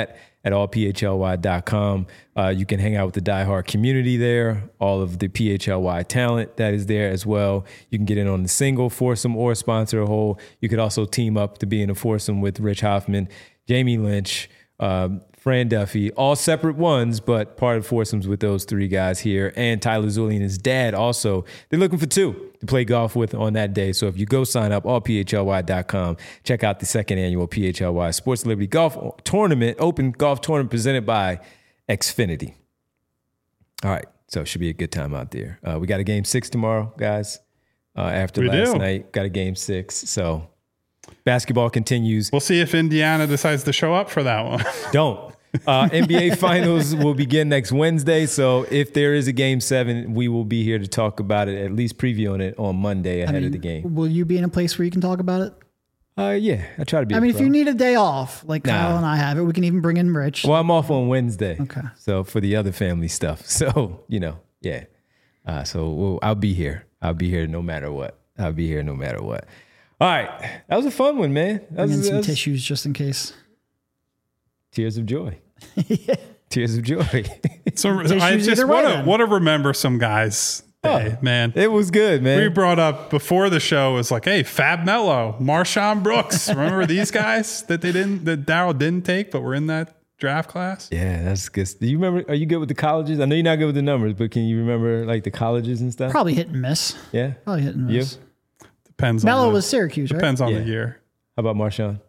at all p h l y dot com. Uh, you can hang out with the diehard community there, all of the P H L Y talent that is there as well. You can get in on the single, foursome, or sponsor a whole. You could also team up to be in a foursome with Rich Hoffman, Jamie Lynch, um, Fran Duffy, all separate ones, but part of foursomes with those three guys here. And Tyler Zulli and his dad also. They're looking for two to play golf with on that day. So if you go sign up, all p h l y dot com, check out the second annual P H L Y Sports Liberty Golf Tournament, Open Golf Tournament presented by Xfinity. All right, so it should be a good time out there. Uh, we got a game six tomorrow, guys. Uh, after We last do. night, got a game six. So basketball continues. We'll see if Indiana decides to show up for that one. Don't. Uh, N B A Finals will begin next Wednesday. So if there is a game seven, we will be here to talk about it, at least previewing it on Monday ahead I mean, of the game. Will you be in a place where you can talk about it? Uh, yeah, I try to be. I a mean, if pro. you need a day off, like Nah. Kyle and I have it, we can even bring in Rich. Well, I'm off on Wednesday. Okay. So for the other family stuff. So, you know, yeah. Uh, so we'll, I'll be here. I'll be here no matter what. I'll be here no matter what. All right. That was a fun one, man. That Bring in was, some that was tissues just in case. tears of joy. Tears of joy. So Tissues I just either way, want to then. want to remember some guys day, Oh. man. It was good, man. We brought up before the show was like, hey, Fab Mello, Marshawn Brooks. Remember these guys that they didn't that Daryl didn't take, but were in that draft class? Yeah, that's good. Do you remember? Are you good with the colleges? I know you're not good with the numbers, but can you remember like the colleges and stuff? Probably hit and miss. Yeah. Probably hit and You? miss. Depends Mello on the, was Syracuse, right? depends on Yeah. the year. How about Marshawn?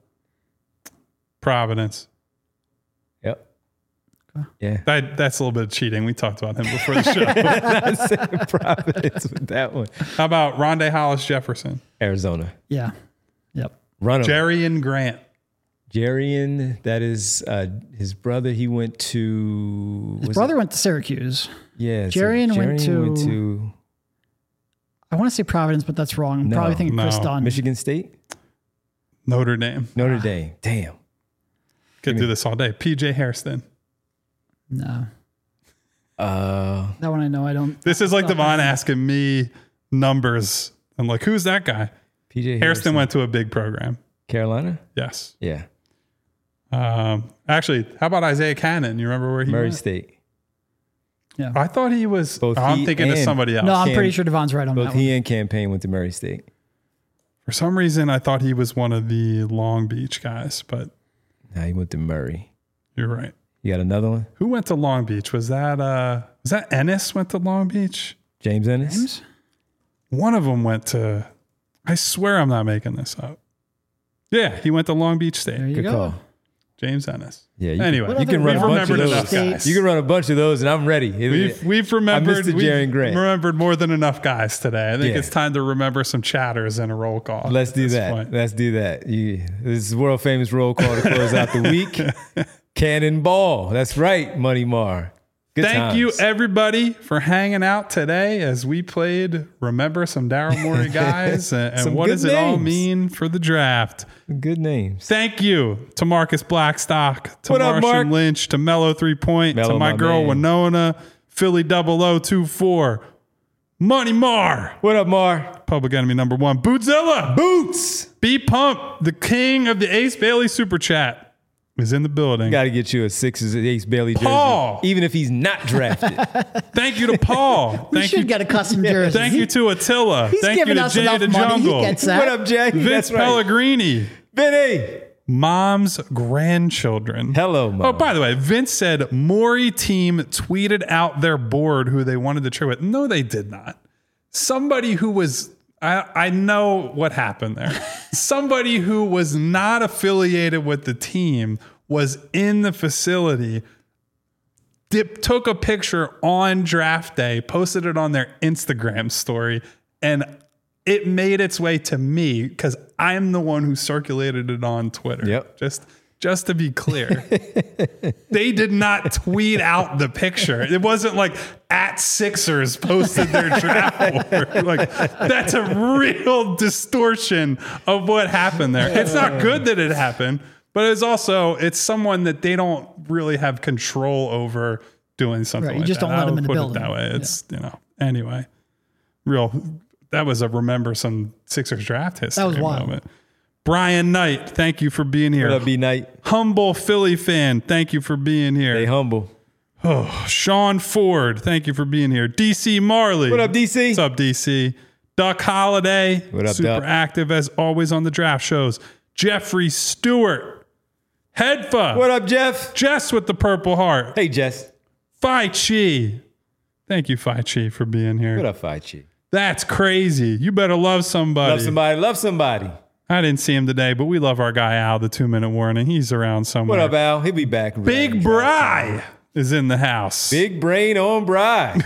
Providence. Yep. Yeah. That that's a little bit of cheating. We talked about him before the show. I said Providence with that one. How about Rondé Hollis Jefferson? Arizona. Yeah. Yep. Run 'em. Jerry and Grant. Jarian, that is uh, his brother. He went to His was brother went to Syracuse. It, yeah, Jarian went to- went to I want to say Providence, but that's wrong. I'm No, probably thinking Chris no. Dunn. Michigan State, Notre Dame. Notre Dame. Damn. Could do this all day. P J Hairston. No. Uh, That one I know. I don't. This is like Stop Devon it. asking me numbers. I'm like, who's that guy? P J Hairston went to a big program. Carolina. Yes. Yeah, Um, actually, how about Isaiah Cannon? You remember where he Murray went? State. I thought he was. Both oh, I'm he thinking of and- somebody else. No, I'm Cam- pretty sure Devon's right on Both that one. he and Campaign went to Murray State. For some reason, I thought he was one of the Long Beach guys, but Nah, he went to Murray. you're right. You got another one? Who went to Long Beach? Was that uh, was that Ennis went to Long Beach? James Ennis. James? One of them went to. I swear I'm not making this up. Yeah, he went to Long Beach State. There you Good go. call. James Ennis. Yeah. You Anyway, can, you can What run a other bunch of remembered those. enough guys. You can run a bunch of those, and I'm ready. We've we've remembered the we've Jaren Grant. remembered more than enough guys today. I think Yeah. it's time to remember some chatters in a roll call. Let's at do this that. point. Let's do that. You, this is world famous roll call to close out the week. Cannonball. That's right, Money Mar. Good Thank you, times. everybody, for hanging out today as we played Remember Some Daryl Morey Guys and, and Some what good does it all names. mean for the draft. Good names. Thank you to Marcus Blackstock, to What up, Martian Mark? Lynch, to Mellow Three Point, Mello, to my, my girl man. Winona, Philly double oh two four, Money Mar, What up, Mar? Public Enemy number one, Bootzilla, Boots. B Pump, the king of the Ace Bailey Super Chat, is in the building. Got to get you a Sixers Ace Bailey jersey, Paul. even if he's not drafted. Thank you to Paul. We Thank should you. get a custom jersey. Thank you to Attila. He's Thank you giving to us Jay enough the money. Jungle. He gets that. What up, Jack? Vince That's right. Pellegrini. Vinny. Mom's grandchildren. Hello, Mom. Oh, by the way, Vince said Maury team tweeted out their board who they wanted to trade with. No, they did not. Somebody who was, I, I know what happened there. Somebody who was not affiliated with the team was in the facility, dip, took a picture on draft day, posted it on their Instagram story, and it made its way to me because I'm the one who circulated it on Twitter. Yep. Just just to be clear. They did not tweet out the picture. It wasn't like at Sixers posted their draft board. Like that's a real distortion of what happened there. It's not good that it happened, but it's also it's someone that they don't really have control over doing something Right, you like just that. don't let I them would in the put building. it that way. It's you know anyway. Real that was a remember some Sixers draft history That was wild. moment. Brian Knight, thank you for being here. What up, B Knight? Humble Philly fan, thank you for being here. Stay humble. Oh, Sean Ford, thank you for being here. D C Marley. What up, D C? What's up, D C? Duck Holiday. What up, Super Duck? active as always on the draft shows. Jeffrey Stewart. Headfa. What up, Jeff? Jess with the Purple Heart. Hey, Jess. Phi Chi. Thank you, Phi Chi, for being here. What up, Phi Chi? That's crazy. You better love somebody. Love somebody. Love somebody. I didn't see him today, but we love our guy Al, the two-minute warning. He's around somewhere. What up, Al? He'll be back. Big Bry is in the house. Big brain on Bry.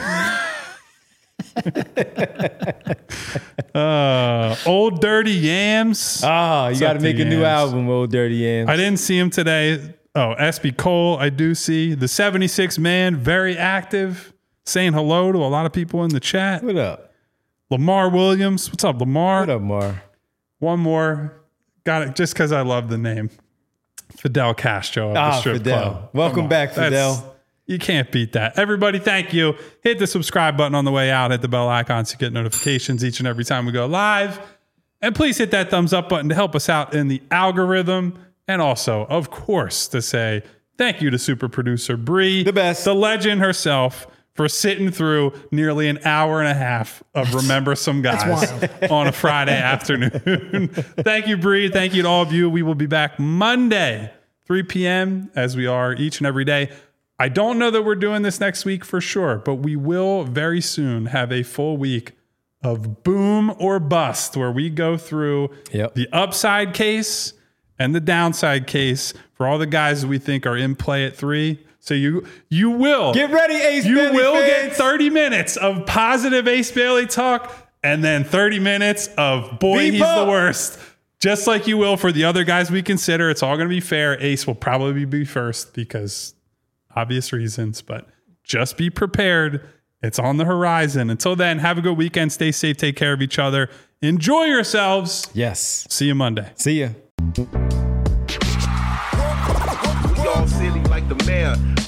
uh, Old Dirty Yams. Ah, you got to up, make the a new Yams? album, Old Dirty Yams. I didn't see him today. Oh, S B Cole, I do see. The seventy-six man, very active, saying hello to a lot of people in the chat. What up? Lamar Williams. What's up, Lamar? What up, Mar? One more. Got it just because I love the name. Fidel Castro of the Ah, Strip Fidel. Club. Welcome Come on. back, That's- Fidel. You can't beat that. Everybody, thank you. Hit the subscribe button on the way out. Hit the bell icon so you get notifications each and every time we go live. And please hit that thumbs up button to help us out in the algorithm. And also, of course, to say thank you to super producer Bree, The best. the legend herself, for sitting through nearly an hour and a half of Remember Some Guys on a Friday afternoon. Thank you, Bree. Thank you to all of you. We will be back Monday, three p.m., as we are each and every day. I don't know that we're doing this next week for sure, but we will very soon have a full week of boom or bust where we go through Yep. the upside case and the downside case for all the guys that we think are in play at three. So you you will Get ready, Ace you Bailey will fans. get thirty minutes of positive Ace Bailey talk and then thirty minutes of boy, Beep he's up. the worst. Just like you will for the other guys we consider. It's all going to be fair. Ace will probably be first because obvious reasons, but just be prepared. It's on the horizon. Until then, have a good weekend. Stay safe. Take care of each other. Enjoy yourselves. Yes. See you Monday. See ya. We all silly like the mayor.